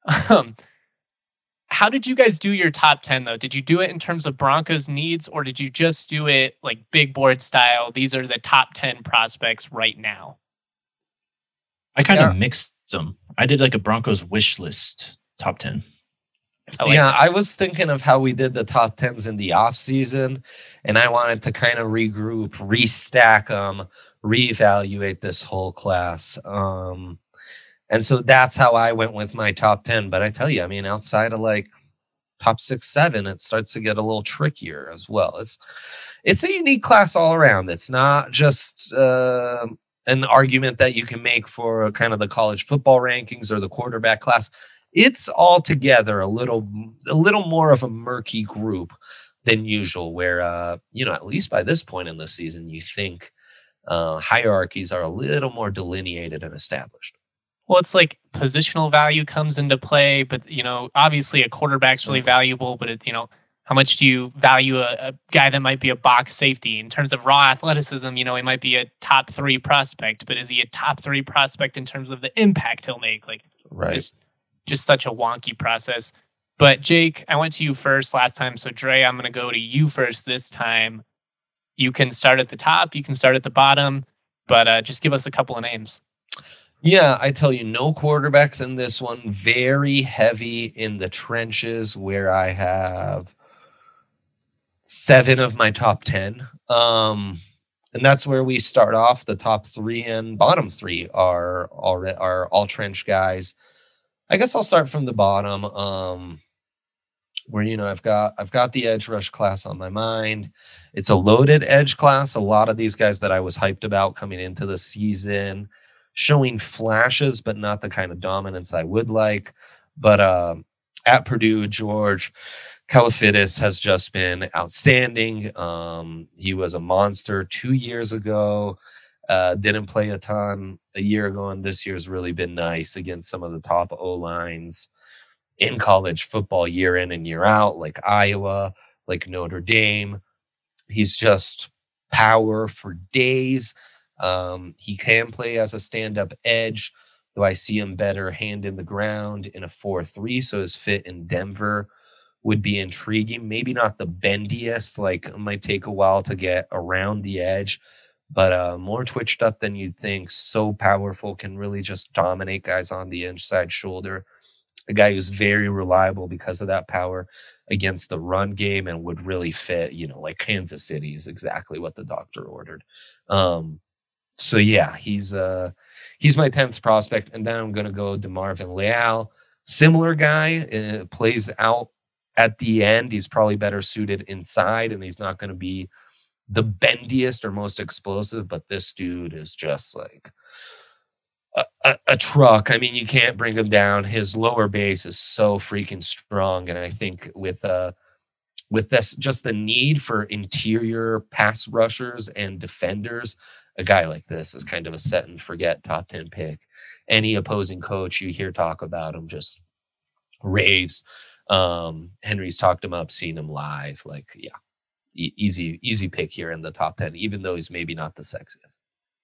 How did you guys do your top 10 though? Did you do it in terms of Broncos needs, or did you just do it like big board style? These are the top 10 prospects right now. I kind of mixed them. I did like a Broncos wish list top 10. I was thinking of how we did the top 10s in the off season, and I wanted to kind of regroup, restack them, reevaluate this whole class. And so that's how I went with my top 10. But I tell you, I mean, outside of like top 6, 7, it starts to get a little trickier as well. It's a unique class all around. It's not just an argument that you can make for kind of the college football rankings or the quarterback class. It's altogether a little more of a murky group than usual, where, at least by this point in the season, you think hierarchies are a little more delineated and established. Well, it's like positional value comes into play, but, obviously a quarterback's really valuable, but it's, how much do you value a guy that might be a box safety in terms of raw athleticism? He might be a top 3 prospect, but is he a top 3 prospect in terms of the impact he'll make? Like, right. It's just such a wonky process. But Jake, I went to you first last time. So Dre, I'm going to go to you first this time. You can start at the top. You can start at the bottom, but just give us a couple of names. Yeah, I tell you, no quarterbacks in this one. Very heavy in the trenches, where I have 7 of my top 10. And that's where we start off. The top 3 and bottom 3 are all trench guys. I guess I'll start from the bottom, where I've got the edge rush class on my mind. It's a loaded edge class. A lot of these guys that I was hyped about coming into the season, showing flashes, but not the kind of dominance I would like. But at Purdue, George Kalafidis has just been outstanding. He was a monster 2 years ago. Didn't play a ton a year ago, and this year's really been nice against some of the top O-lines in college football year in and year out, like Iowa, like Notre Dame. He's just power for days. He can play as a stand-up edge, though I see him better hand in the ground in a 4-3, so his fit in Denver would be intriguing. Maybe not the bendiest, like it might take a while to get around the edge, but more twitched up than you'd think. So powerful, can really just dominate guys on the inside shoulder. A guy who's very reliable because of that power against the run game, and would really fit, like Kansas City is exactly what the doctor ordered. So yeah, he's my 10th prospect. And then I'm going to go DeMarvin Leal. Similar guy, plays out at the end. He's probably better suited inside, and he's not going to be the bendiest or most explosive, but this dude is just like a truck. I mean, you can't bring him down. His lower base is so freaking strong. And I think with this, just the need for interior pass rushers and defenders, a guy like this is kind of a set and forget top 10 pick. Any opposing coach you hear talk about him just raves. Henry's talked him up, seen him live. Like, yeah, easy pick here in the top 10, even though he's maybe not the sexiest.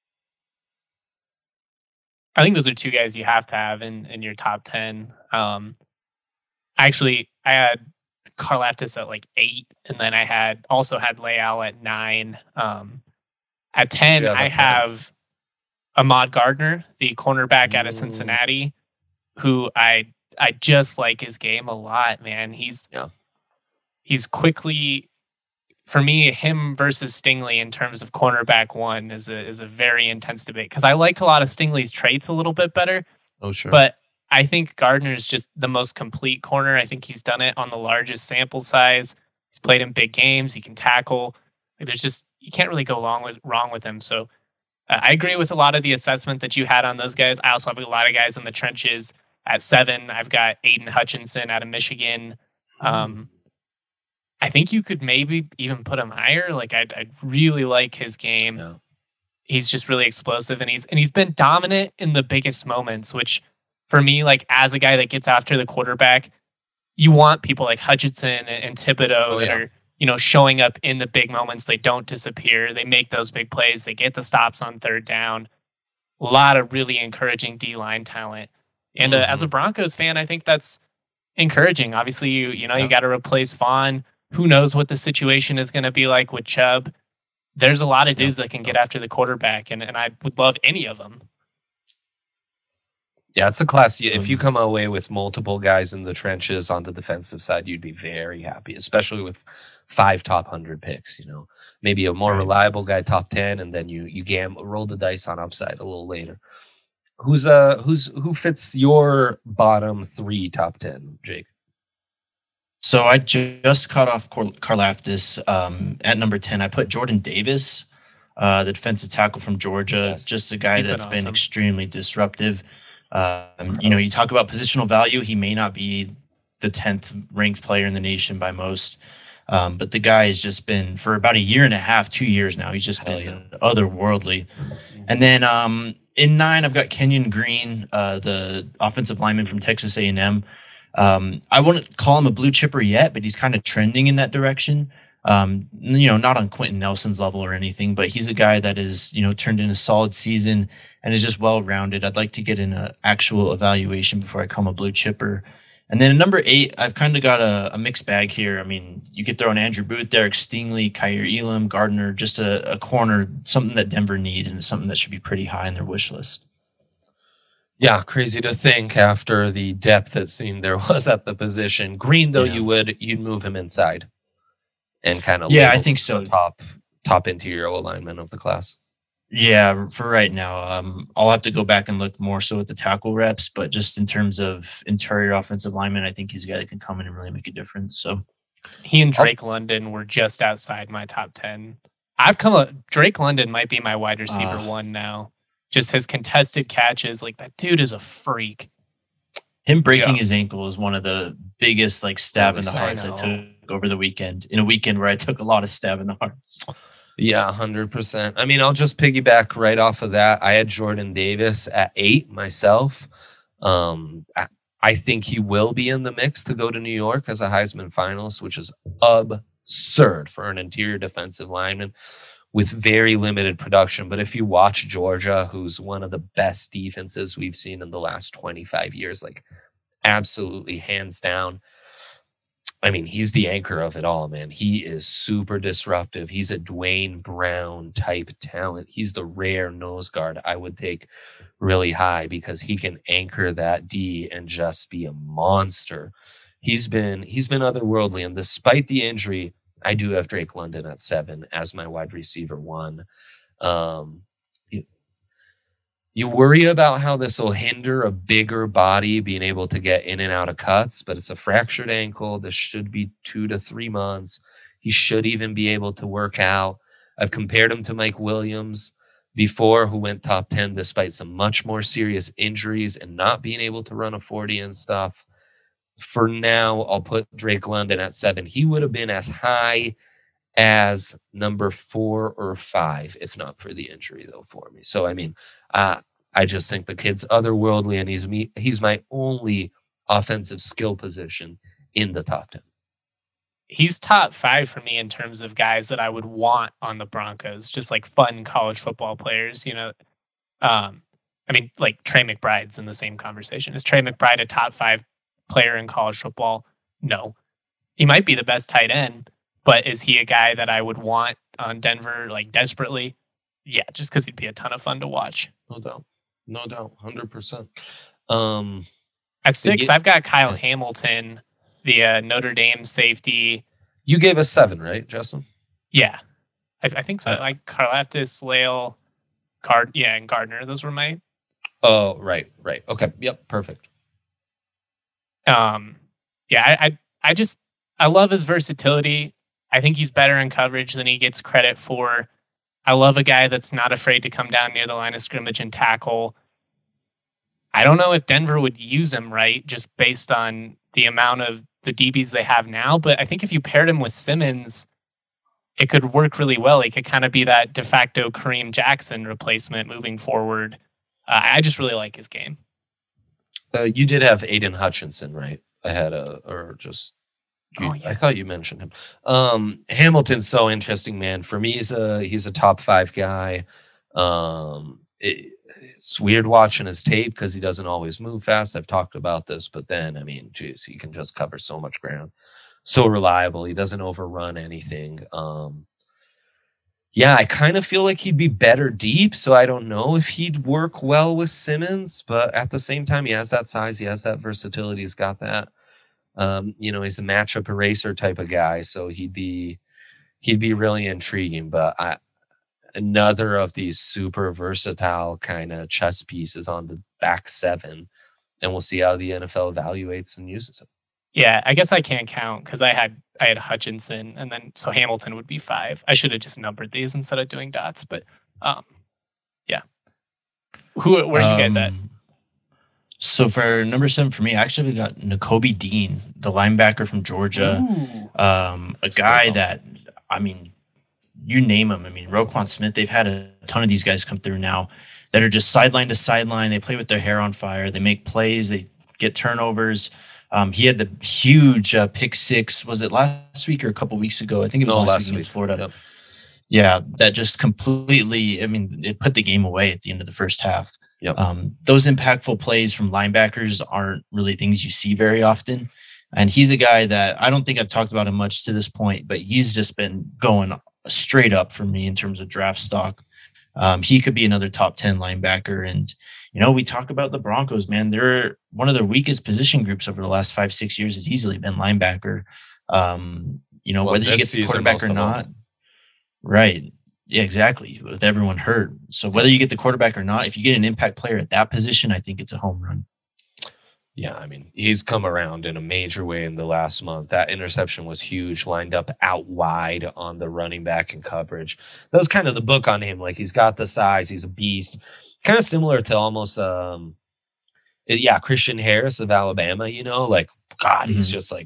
I think those are 2 guys you have to have in your top 10. Actually, I had Karlaftis at like 8, and then I also had Leal at 9. At 10, I have Ahmad Gardner, the cornerback out of Cincinnati, who I just like his game a lot, man. He's quickly, for me, him versus Stingley in terms of cornerback 1 is a very intense debate, because I like a lot of Stingley's traits a little bit better. Oh, sure. But I think Gardner is just the most complete corner. I think he's done it on the largest sample size. He's played in big games. He can tackle. You can't really go wrong with him. So I agree with a lot of the assessment that you had on those guys. I also have a lot of guys in the trenches. At 7, I've got Aiden Hutchinson out of Michigan. I think you could maybe even put him higher. Like I really like his game. Yeah. He's just really explosive, and he's been dominant in the biggest moments, which for me, like as a guy that gets after the quarterback, you want people like Hutchinson and Thibodeau that are, showing up in the big moments. They don't disappear. They make those big plays. They get the stops on third down. A lot of really encouraging D-line talent. And as a Broncos fan, I think that's encouraging. Obviously, you got to replace Vaughn. Who knows what the situation is going to be like with Chubb? There's a lot of dudes that can get after the quarterback, and I would love any of them. Yeah, it's a class. If you come away with multiple guys in the trenches on the defensive side, you'd be very happy, especially with 5 top 100 picks. Maybe a more reliable guy top 10, and then you roll the dice on upside a little later. Who fits your bottom 3 top 10, Jake? So I just cut off Karlaftis at number 10. I put Jordan Davis, the defensive tackle from Georgia, just a guy that's been extremely disruptive. You talk about positional value. He may not be the 10th ranked player in the nation by most, but the guy has just been, for about a year and a half, 2 years now, he's just been otherworldly. And then in 9, I've got Kenyon Green, the offensive lineman from Texas A&M. I wouldn't call him a blue chipper yet, but he's kind of trending in that direction. Not on Quentin Nelson's level or anything, but he's a guy that is, turned in a solid season and is just well-rounded. I'd like to get an actual evaluation before I call him a blue chipper. And then at number 8, I've kind of got a mixed bag here. I mean, you could throw in Andrew Booth, Derek Stingley, Kaiir Elam, Gardner, just a corner, something that Denver needs and something that should be pretty high on their wish list. Yeah, crazy to think after the depth it seemed there was at the position. Green, though, you'd move him inside and kind of I think so. Top interior alignment of the class. Yeah, for right now, I'll have to go back and look more so at the tackle reps, but just in terms of interior offensive lineman, I think he's a guy that can come in and really make a difference. So he and Drake London were just outside my top 10. Drake London might be my wide receiver 1 now. Just his contested catches, like that dude is a freak. Him breaking his ankle is one of the biggest stab in the hearts I took over the weekend, in a weekend where I took a lot of stab in the hearts. Yeah, 100%. I mean, I'll just piggyback right off of that. I had Jordan Davis at 8 myself. I think he will be in the mix to go to New York as a Heisman finalist, which is absurd for an interior defensive lineman with very limited production. But if you watch Georgia, who's one of the best defenses we've seen in the last 25 years, absolutely hands down. I mean, he's the anchor of it all, man. He is super disruptive. He's a Dwayne Brown type talent. He's the rare nose guard I would take really high because he can anchor that D and just be a monster. He's been otherworldly, and despite the injury, I do have Drake London at 7 as my wide receiver 1. You worry about how this will hinder a bigger body being able to get in and out of cuts, but it's a fractured ankle. This should be 2 to 3 months. He should even be able to work out. I've compared him to Mike Williams before, who went top 10 despite some much more serious injuries and not being able to run a 40 and stuff. For now, I'll put Drake London at 7. He would have been as high as number 4 or 5, if not for the injury, though, for me. So, I mean, I just think the kid's otherworldly, and he's my only offensive skill position in the top 10. He's top 5 for me in terms of guys that I would want on the Broncos, just fun college football players, I mean, Trey McBride's in the same conversation. Is Trey McBride a top 5 player in college football? No. He might be the best tight end, but is he a guy that I would want on Denver desperately? Yeah, just because he'd be a ton of fun to watch. No doubt, 100%. At 6, I've got Kyle Hamilton, the Notre Dame safety. You gave us 7, right, Justin? Yeah, I think so. Karlaftis, Lael, and Gardner. Those were my. Oh, right. Okay, yep, perfect. I love his versatility. I think he's better in coverage than he gets credit for. I love a guy that's not afraid to come down near the line of scrimmage and tackle. I don't know if Denver would use him right, just based on the amount of the DBs they have now. But I think if you paired him with Simmons, it could work really well. He could kind of be that de facto Kareem Jackson replacement moving forward. I just really like his game. You did have Aiden Hutchinson, right? I thought you mentioned him. Hamilton's so interesting, man. For me, he's a top 5 guy. It's weird watching his tape because he doesn't always move fast. I've talked about this, but then, I mean, geez, he can just cover so much ground. So reliable. He doesn't overrun anything. Yeah, I kind of feel like he'd be better deep, so I don't know if he'd work well with Simmons, but at the same time, he has that size, he has that versatility, he's got that. He's a matchup eraser type of guy, so he'd be really intriguing. But another of these super versatile kind of chess pieces on the back 7, and we'll see how the NFL evaluates and uses it. Yeah, I guess I can't count because I had Hutchinson, and then so Hamilton would be 5. I should have just numbered these instead of doing dots, but yeah. Where are you guys at? So for number 7 for me, actually we got Nakobe Dean, the linebacker from Georgia. A guy that, I mean, you name him. I mean, Roquan Smith, they've had a ton of these guys come through now that are just sideline to sideline. They play with their hair on fire. They make plays. They get turnovers. He had the huge pick 6. Was it last week or a couple weeks ago? I think it was last week against Florida. Yep. Yeah, that just completely, I mean, it put the game away at the end of the first half. Yep. Those impactful plays from linebackers aren't really things you see very often. And he's a guy that I don't think I've talked about him much to this point, but he's just been going straight up for me in terms of draft stock. He could be another top 10 linebacker. And, we talk about the Broncos, man. They're one of their weakest position groups over the last 5-6 years has easily been linebacker. Whether you get the quarterback or not. Right. Yeah, exactly. With everyone hurt. So whether you get the quarterback or not, if you get an impact player at that position, I think it's a home run. Yeah, I mean, he's come around in a major way in the last month. That interception was huge, lined up out wide on the running back in coverage. That was kind of the book on him. Like, he's got the size, he's a beast. Kind of similar to almost, Christian Harris of Alabama, he's just like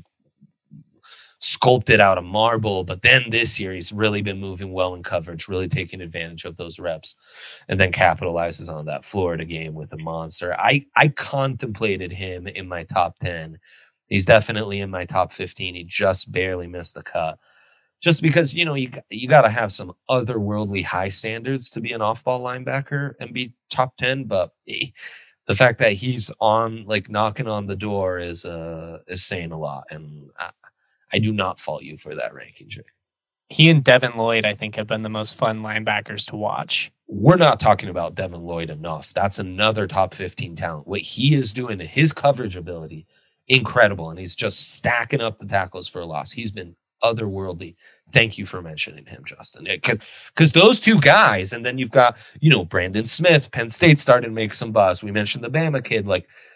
sculpted out of marble. But then this year, he's really been moving well in coverage, really taking advantage of those reps, and then capitalizes on that Florida game with a monster. I contemplated him in my top 10. He's definitely in my top 15. He just barely missed the cut. Just because, you got to have some otherworldly high standards to be an off-ball linebacker and be top 10. But the fact that he's knocking on the door is saying a lot. And I do not fault you for that ranking, Jake. He and Devin Lloyd, I think, have been the most fun linebackers to watch. We're not talking about Devin Lloyd enough. That's another top 15 talent. What he is doing, his coverage ability, incredible. And he's just stacking up the tackles for a loss. He's been otherworldly. Thank you for mentioning him, Justin. Because those two guys, and then you've got, Brandon Smith, Penn State started to make some buzz. We mentioned the Bama kid.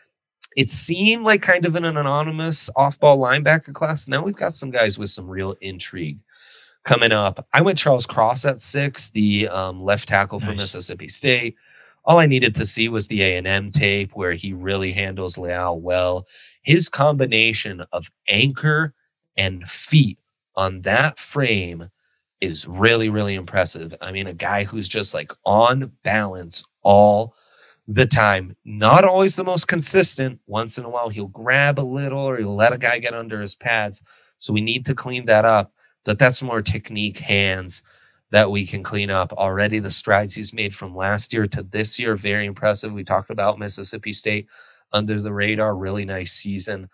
It seemed like kind of an anonymous off-ball linebacker class. Now we've got some guys with some real intrigue coming up. I went Charles Cross at 6, the left tackle for Mississippi State. All I needed to see was the A&M tape where he really handles Leal well. His combination of anchor and feet on that frame is really, really impressive. I mean, a guy who's just on balance all the time, not always the most consistent. Once in a while, he'll grab a little or he'll let a guy get under his pads. So we need to clean that up. But that's more technique, hands that we can clean up. Already the strides he's made from last year to this year, very impressive. We talked about Mississippi State under the radar, really nice season.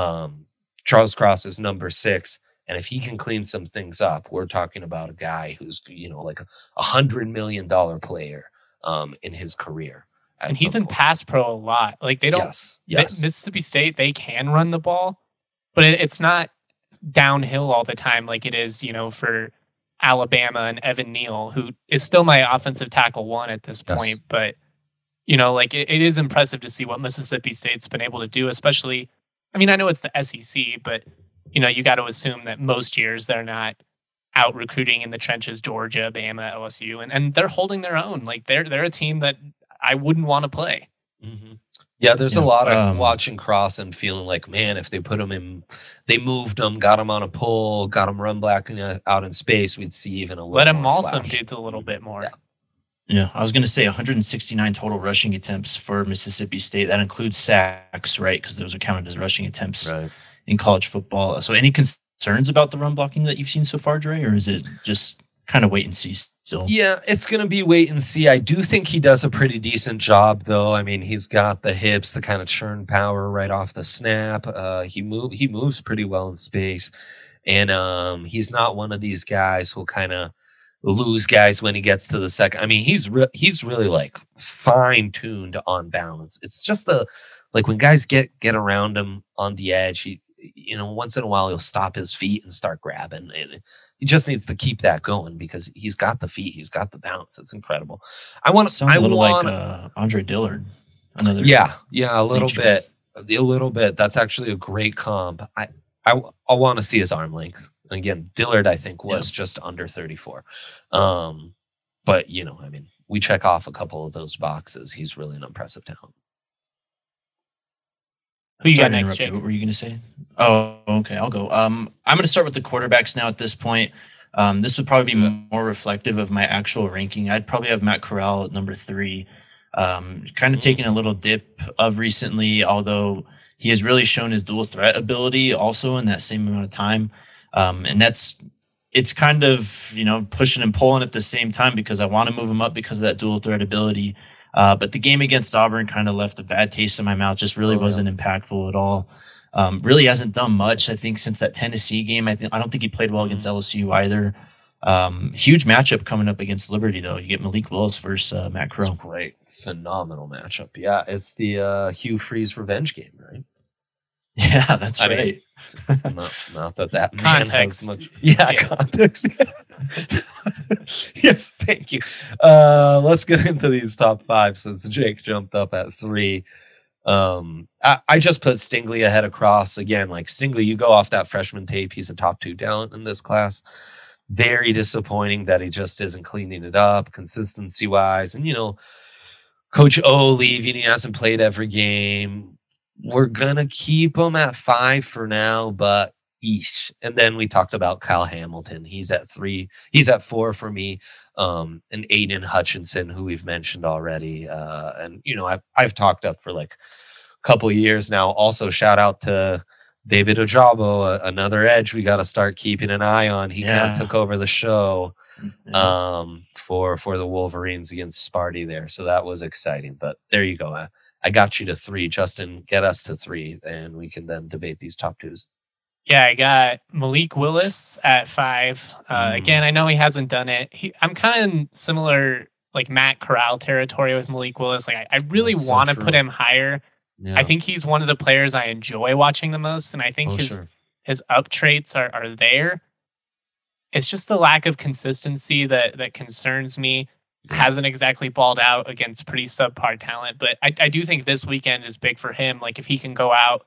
Charles Cross is number 6. And if he can clean some things up, we're talking about a guy who's, like $100 million player in his career. And he's in pass pro a lot. They don't. Yes. Mississippi State, they can run the ball, but it's not downhill all the time like it is, for Alabama and Evan Neal, who is still my offensive tackle 1 at this point. Yes. But, it is impressive to see what Mississippi State's been able to do, especially, I mean, I know it's the SEC, but, you got to assume that most years they're not out recruiting in the trenches, Georgia, Bama, LSU, and they're holding their own. They're a team that I wouldn't want to play. Mm-hmm. Yeah, there's a Yeah. lot of watching Cross and feeling like, man, if they put him in, they moved him, got him on a pull, got him run back out in space, we'd see even a little Let him more maul some flash. dudes a little bit more. Yeah. Yeah, I was going to say 169 total rushing attempts for Mississippi State. That includes sacks, right? Because those are counted as rushing attempts in college football. So any concerns about the run blocking that you've seen so far, Dre, or is it just kind of wait and see still? Yeah, it's going to be wait and see. I do think he does a pretty decent job, though. I mean, he's got the hips, the kind of churn power right off the snap. He moves pretty well in space, and he's not one of these guys who'll kind of lose guys when he gets to the second. I mean, he's really like fine tuned on balance. It's just like when guys get around him on the edge, he, once in a while he'll stop his feet and start grabbing, and he just needs to keep that going because he's got the feet, he's got the bounce. It's incredible. Sounds a little like Andre Dillard. Another a little bit. That's actually a great comp. I want to see his arm length. Again, Dillard, I think, was just under 34. But, I mean, we check off a couple of those boxes. He's really an impressive talent. Who you got next, Jake? What were you going to say? Oh, okay. I'll go. I'm going to start with the quarterbacks now at this point. This would probably be more reflective of my actual ranking. I'd probably have Matt Corral at number 3. Kind of taking a little dip of recently, although he has really shown his dual threat ability also in that same amount of time. And it's kind of, pushing and pulling at the same time because I want to move him up because of that dual threat ability. But the game against Auburn kind of left a bad taste in my mouth. Just really wasn't impactful at all. Really hasn't done much, I think, since that Tennessee game. I don't think he played well against LSU either. Huge matchup coming up against Liberty, though. You get Malik Willis versus Matt Corral. Great. Phenomenal matchup. Yeah, it's the Hugh Freeze revenge game, right? Yeah, that's right. Not that context. Man has much. Yeah, context. Yes, thank you. Let's get into these top 5 since Jake jumped up at 3. I just put Stingley ahead of Cross again. Like Stingley, you go off that freshman tape. He's a top 2 talent in this class. Very disappointing that he just isn't cleaning it up consistency wise. And Coach O leaving, he hasn't played every game. We're gonna keep him at 5 for now, but eesh. And then we talked about Kyle Hamilton. He's at 3. He's at 4 for me. And Aiden Hutchinson, who we've mentioned already. And I've talked up for like a couple of years now. Also, shout out to David Ojabo, another edge we got to start keeping an eye on. He kind of took over the show for the Wolverines against Sparty there. So that was exciting. But there you go. I got you to 3. Justin, get us to 3, and we can then debate these top 2s. Yeah, I got Malik Willis at 5. Again, I know he hasn't done it. I'm kind of similar, like Matt Corral territory with Malik Willis. Like I really want to put him higher. Yeah. I think he's one of the players I enjoy watching the most, and I think his up traits are there. It's just the lack of consistency that concerns me. Hasn't exactly balled out against pretty subpar talent, but I do think this weekend is big for him. Like if he can go out,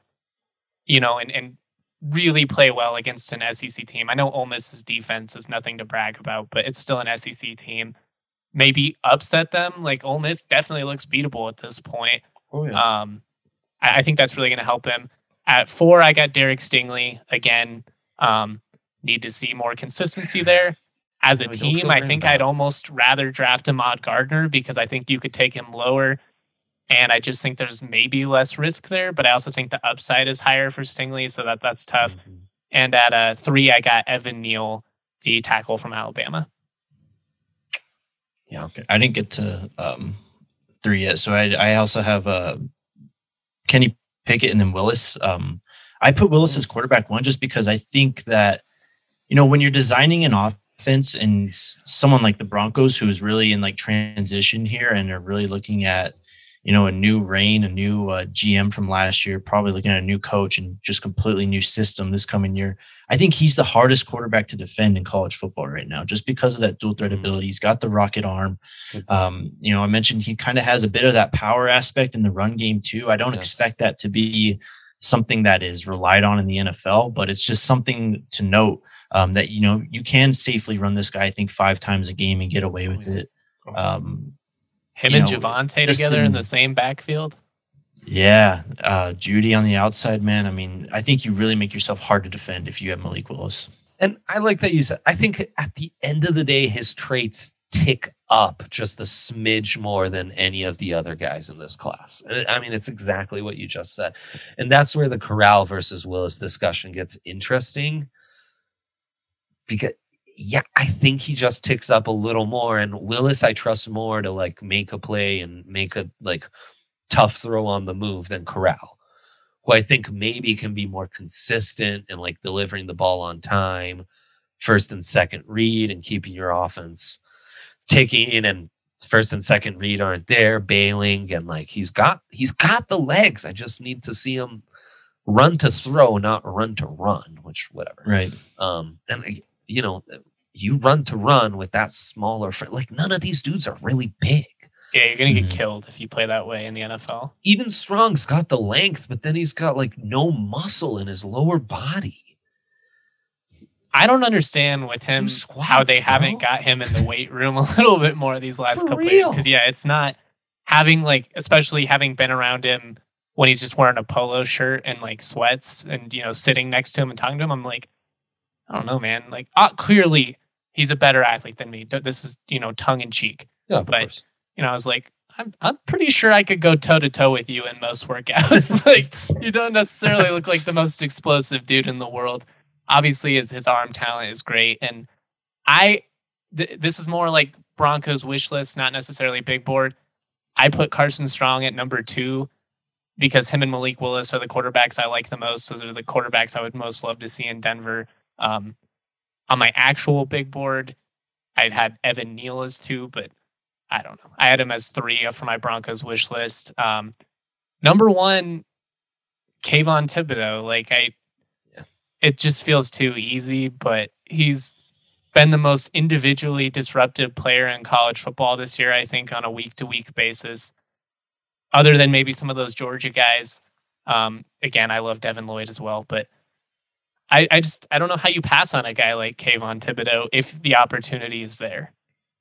and really play well against an SEC team. I know Ole Miss's defense is nothing to brag about, but it's still an SEC team. Maybe upset them. Like Ole Miss definitely looks beatable at this point. Oh yeah. I think that's really going to help him. At 4, I got Derek Stingley again. Need to see more consistency there. As a team, I think I'd almost rather draft Ahmad Gardner because I think you could take him lower. And I just think there's maybe less risk there, but I also think the upside is higher for Stingley, so that's tough. Mm-hmm. And at 3, I got Evan Neal, the tackle from Alabama. Yeah, okay. I didn't get to 3 yet, so I also have Kenny Pickett and then Willis. I put Willis as quarterback 1 just because I think that, when you're designing an offense and someone like the Broncos who is really in like transition here and are really looking at, a new reign, a new GM from last year, probably looking at a new coach and just completely new system this coming year. I think he's the hardest quarterback to defend in college football right now, just because of that dual threat ability. He's got the rocket arm. I mentioned he kind of has a bit of that power aspect in the run game too. I don't expect that to be something that is relied on in the NFL, but it's just something to note that, you can safely run this guy, I think 5 times a game and get away with it. Him and Javonte together in the same backfield. Yeah, Judy on the outside, man. I mean, I think you really make yourself hard to defend if you have Malik Willis. And I like that you said, I think at the end of the day, his traits tick up just a smidge more than any of the other guys in this class. And I mean, it's exactly what you just said. And that's where the Corral versus Willis discussion gets interesting. Because, yeah, I think he just ticks up a little more. And Willis, I trust more to like make a play and make a like tough throw on the move than Corral, who I think maybe can be more consistent in like delivering the ball on time, first and second read, and keeping your offense taking in, and first and second read aren't there, bailing, and like he's got the legs. I just need to see him run to throw, not run to run, which whatever. Right. And you know, you run to run with that smaller frame. Like none of these dudes are really big. Yeah, you're going to get killed if you play that way in the NFL. Even Strong's got the length, but then he's got like no muscle in his lower body. I don't understand with him how they haven't got him in the weight room a little bit more these last couple of years. Because, yeah, it's not having like, especially having been around him when he's just wearing a polo shirt and like sweats and, you know, sitting next to him and talking to him. I'm like, I don't know, man. Like, clearly he's a better athlete than me. This is, you know, tongue in cheek. Yeah, of course. You know, I was like, I'm pretty sure I could go toe to toe with you in most workouts. Like, you don't necessarily look like the most explosive dude in the world. Obviously, his arm talent is great, and this is more like Broncos wish list, not necessarily big board. I put Carson Strong at number 2 because him and Malik Willis are the quarterbacks I like the most. Those are the quarterbacks I would most love to see in Denver. On my actual big board, I'd had Evan Neal as 2, but I don't know. I had him as 3 for my Broncos wish list. Number 1, Kayvon Thibodeau. Like it just feels too easy, but he's been the most individually disruptive player in college football this year, I think, on a week-to-week basis. Other than maybe some of those Georgia guys. Again, I love Devin Lloyd as well, but I don't know how you pass on a guy like Kayvon Thibodeau if the opportunity is there.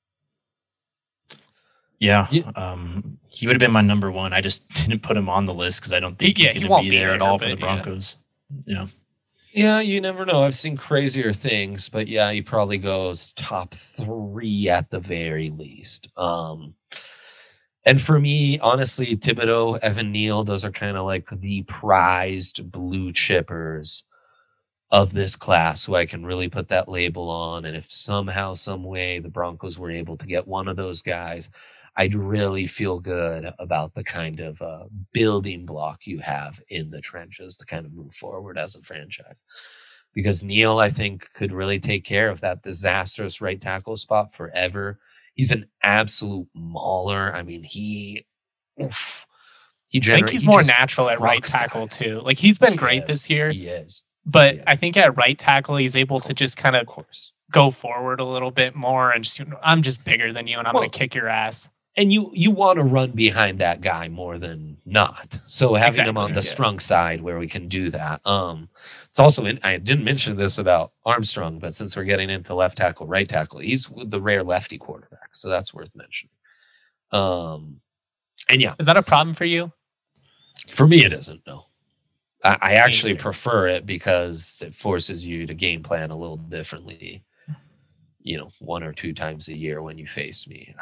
Yeah. He would have been my number 1. I just didn't put him on the list because I don't think he's going to be there at all for the Broncos. Yeah. Yeah, you never know. I've seen crazier things, but yeah, he probably goes top 3 at the very least. And for me, honestly, Thibodeau, Evan Neal, those are kind of like the prized blue chippers of this class who I can really put that label on. And if somehow, some way the Broncos were able to get one of those guys, I'd really feel good about the kind of building block you have in the trenches to kind of move forward as a franchise. Because Neal, I think, could really take care of that disastrous right tackle spot forever. He's an absolute mauler. I mean, I think he's more natural at right tackle too. Like he's been great this year. He is. But I think at right tackle, he's able to just kind of go forward a little bit more and just, I'm just bigger than you and I'm going to kick your ass. And you want to run behind that guy more than not. So having him on the Strong side where we can do that. It's also, I didn't mention this about Armstrong, but since we're getting into left tackle, right tackle, he's the rare lefty quarterback. So that's worth mentioning. And yeah. Is that a problem for you? For me, it isn't, no. I actually prefer it because it forces you to game plan a little differently, 1 or 2 times a year when you face me.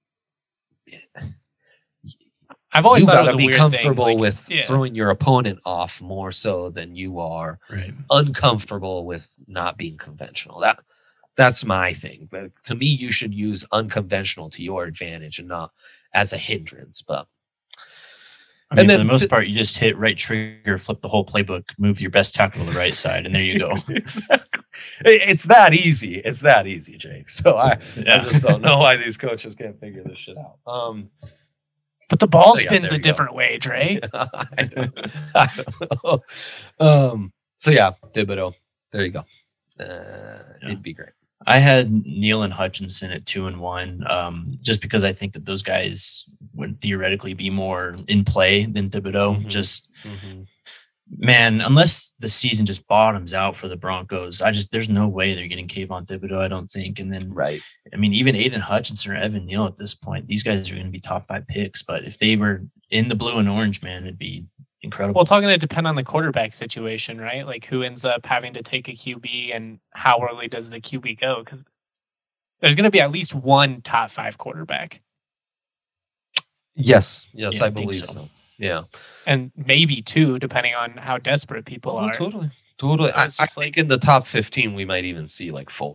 I've always thought you got to be comfortable with throwing your opponent off more so than you are uncomfortable with not being conventional. That's my thing. But to me, you should use unconventional to your advantage and not as a hindrance. But for the most part, you just hit right trigger, flip the whole playbook, move your best tackle to the right side, and there you go. Exactly. It's that easy. It's that easy, Jake. So I just don't know why these coaches can't figure this shit out. But the ball spins a different way, Dre. I don't know. So yeah, Thibodeau. There you go. It'd be great. I had Neal and Hutchinson at 2 and 1, just because I think that those guys would theoretically be more in play than Thibodeau. Man, unless the season just bottoms out for the Broncos, there's no way they're getting Kayvon Thibodeau, I don't think. And then, Right. I mean, even Aiden Hutchinson or Evan Neal at this point, these guys are going to be top 5 picks. But if they were in the blue and orange, man, it'd be incredible. Well, it's all going to depend on the quarterback situation, right? Like who ends up having to take a QB and how early does the QB go? Because there's going to be at least one top 5 quarterback. Yes, Yeah, I I think believe so. so. Yeah. And maybe 2, depending on how desperate people are. Totally. So I it's just think in the top 15, we might even see like 4.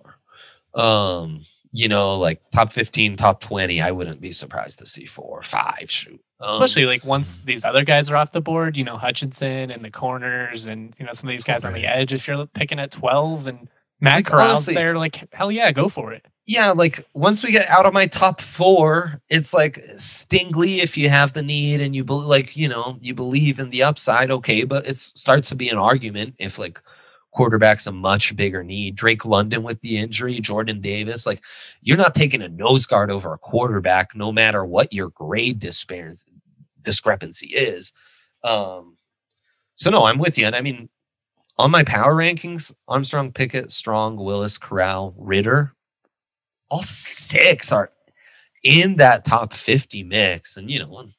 Like top 15, top 20, I wouldn't be surprised to see 4 or 5 shoot. Especially like once these other guys are off the board, Hutchinson and the corners and, some of these guys on the edge. If you're picking at 12 and Matt Like, Corral's honestly- there, like, hell yeah, go for it. Yeah, like once we get out of my top 4, it's like Stingley if you have the need and you believe in the upside, okay, but it starts to be an argument if like quarterback's a much bigger need. Drake London with the injury, Jordan Davis, like you're not taking a nose guard over a quarterback no matter what your grade discrepancy is. So no, I'm with you. And I mean, on my power rankings, Armstrong, Pickett, Strong, Willis, Corral, Ritter, all 6 are in that top 50 mix. And,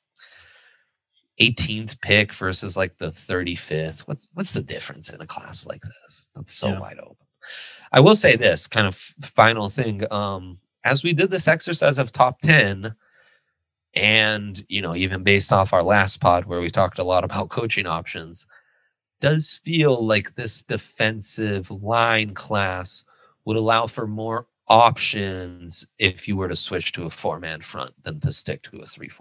18th pick versus like the 35th. What's the difference in a class like this? That's so wide open. I will say this kind of final thing. As we did this exercise of top 10, and, even based off our last pod where we talked a lot about coaching options, does feel like this defensive line class would allow for more options if you were to switch to a 4-man front than to stick to a 3-4.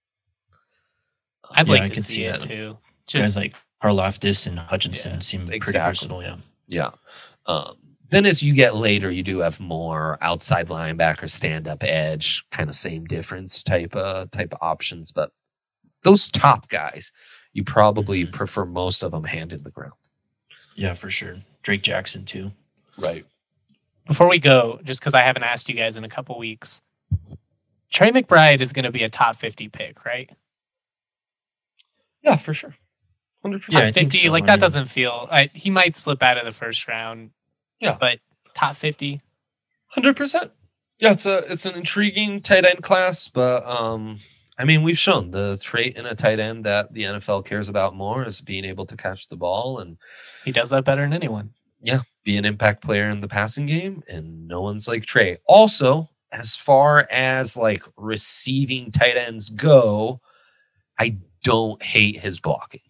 I'd Yeah, I like to can see see it that. too. Guys like Karlaftis and Hutchinson seem pretty exactly. versatile. Yeah. Yeah. Then as you get later, you do have more outside linebacker, stand-up edge, kind of same difference type of options. But those top guys, you probably prefer most of them hand in the ground. Yeah, for sure. Drake Jackson too. Right. Before we go, just because I haven't asked you guys in a couple weeks, Trey McBride is going to be a top 50 pick, right? Yeah, for sure. 100%. Yeah, I Top think 50, so. like I that mean- doesn't feel. He might slip out of the first round. Yeah. But top 50. 100%. Yeah, it's an intriguing tight end class, but I mean, we've shown the trait in a tight end that the NFL cares about more is being able to catch the ball and He does that better than anyone. be an impact player in the passing game, and no one's like Trey. Also, as far as like receiving tight ends go, I don't hate his blocking.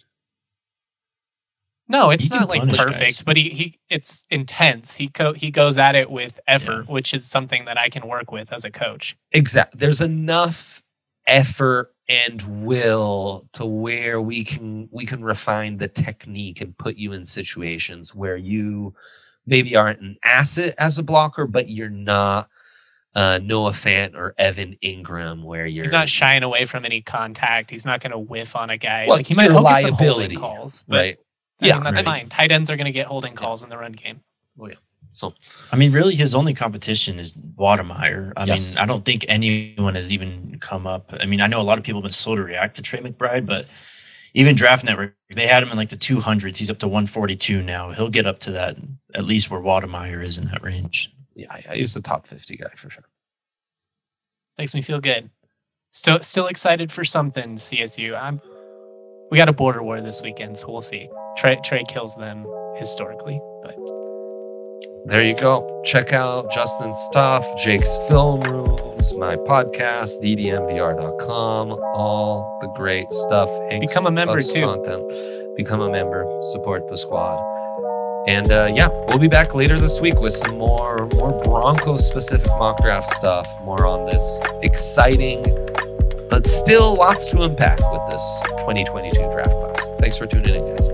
No, it's He can not like punish perfect, guys. but it's intense. He goes at it with effort, which is something that I can work with as a coach. Exactly. There's enough effort and will to where we can refine the technique and put you in situations where you maybe aren't an asset as a blocker, but you're not Noah Fant or Evan Ingram, where you're He's not shying away from any contact. He's not going to whiff on a guy. Well, like he might your he'll get some liability, holding calls, but right. I mean, that's right. fine. Tight ends are going to get holding calls in the run game. So I mean, really, his only competition is Wademeyer. I Yes. mean, I don't think anyone has even come up. I mean, I know a lot of people have been slow to react to Trey McBride, but even Draft Network, they had him in like the 200s. He's up to 142 now. He'll get up to that, at least where Wademeyer is in that range. yeah, he's a top 50 guy for sure. Makes me feel good. Still excited for something, CSU. We got a border war this weekend, so we'll see. Trey kills them historically, but There you go. Check out Justin's stuff, Jake's film rooms, my podcast, ddmvr.com, all the great stuff. Hank's Become a member, Buffs too. Content. Become a member. Support the squad. And we'll be back later this week with some more Broncos specific mock draft stuff. More on this exciting, but still lots to unpack with this 2022 draft class. Thanks for tuning in, guys.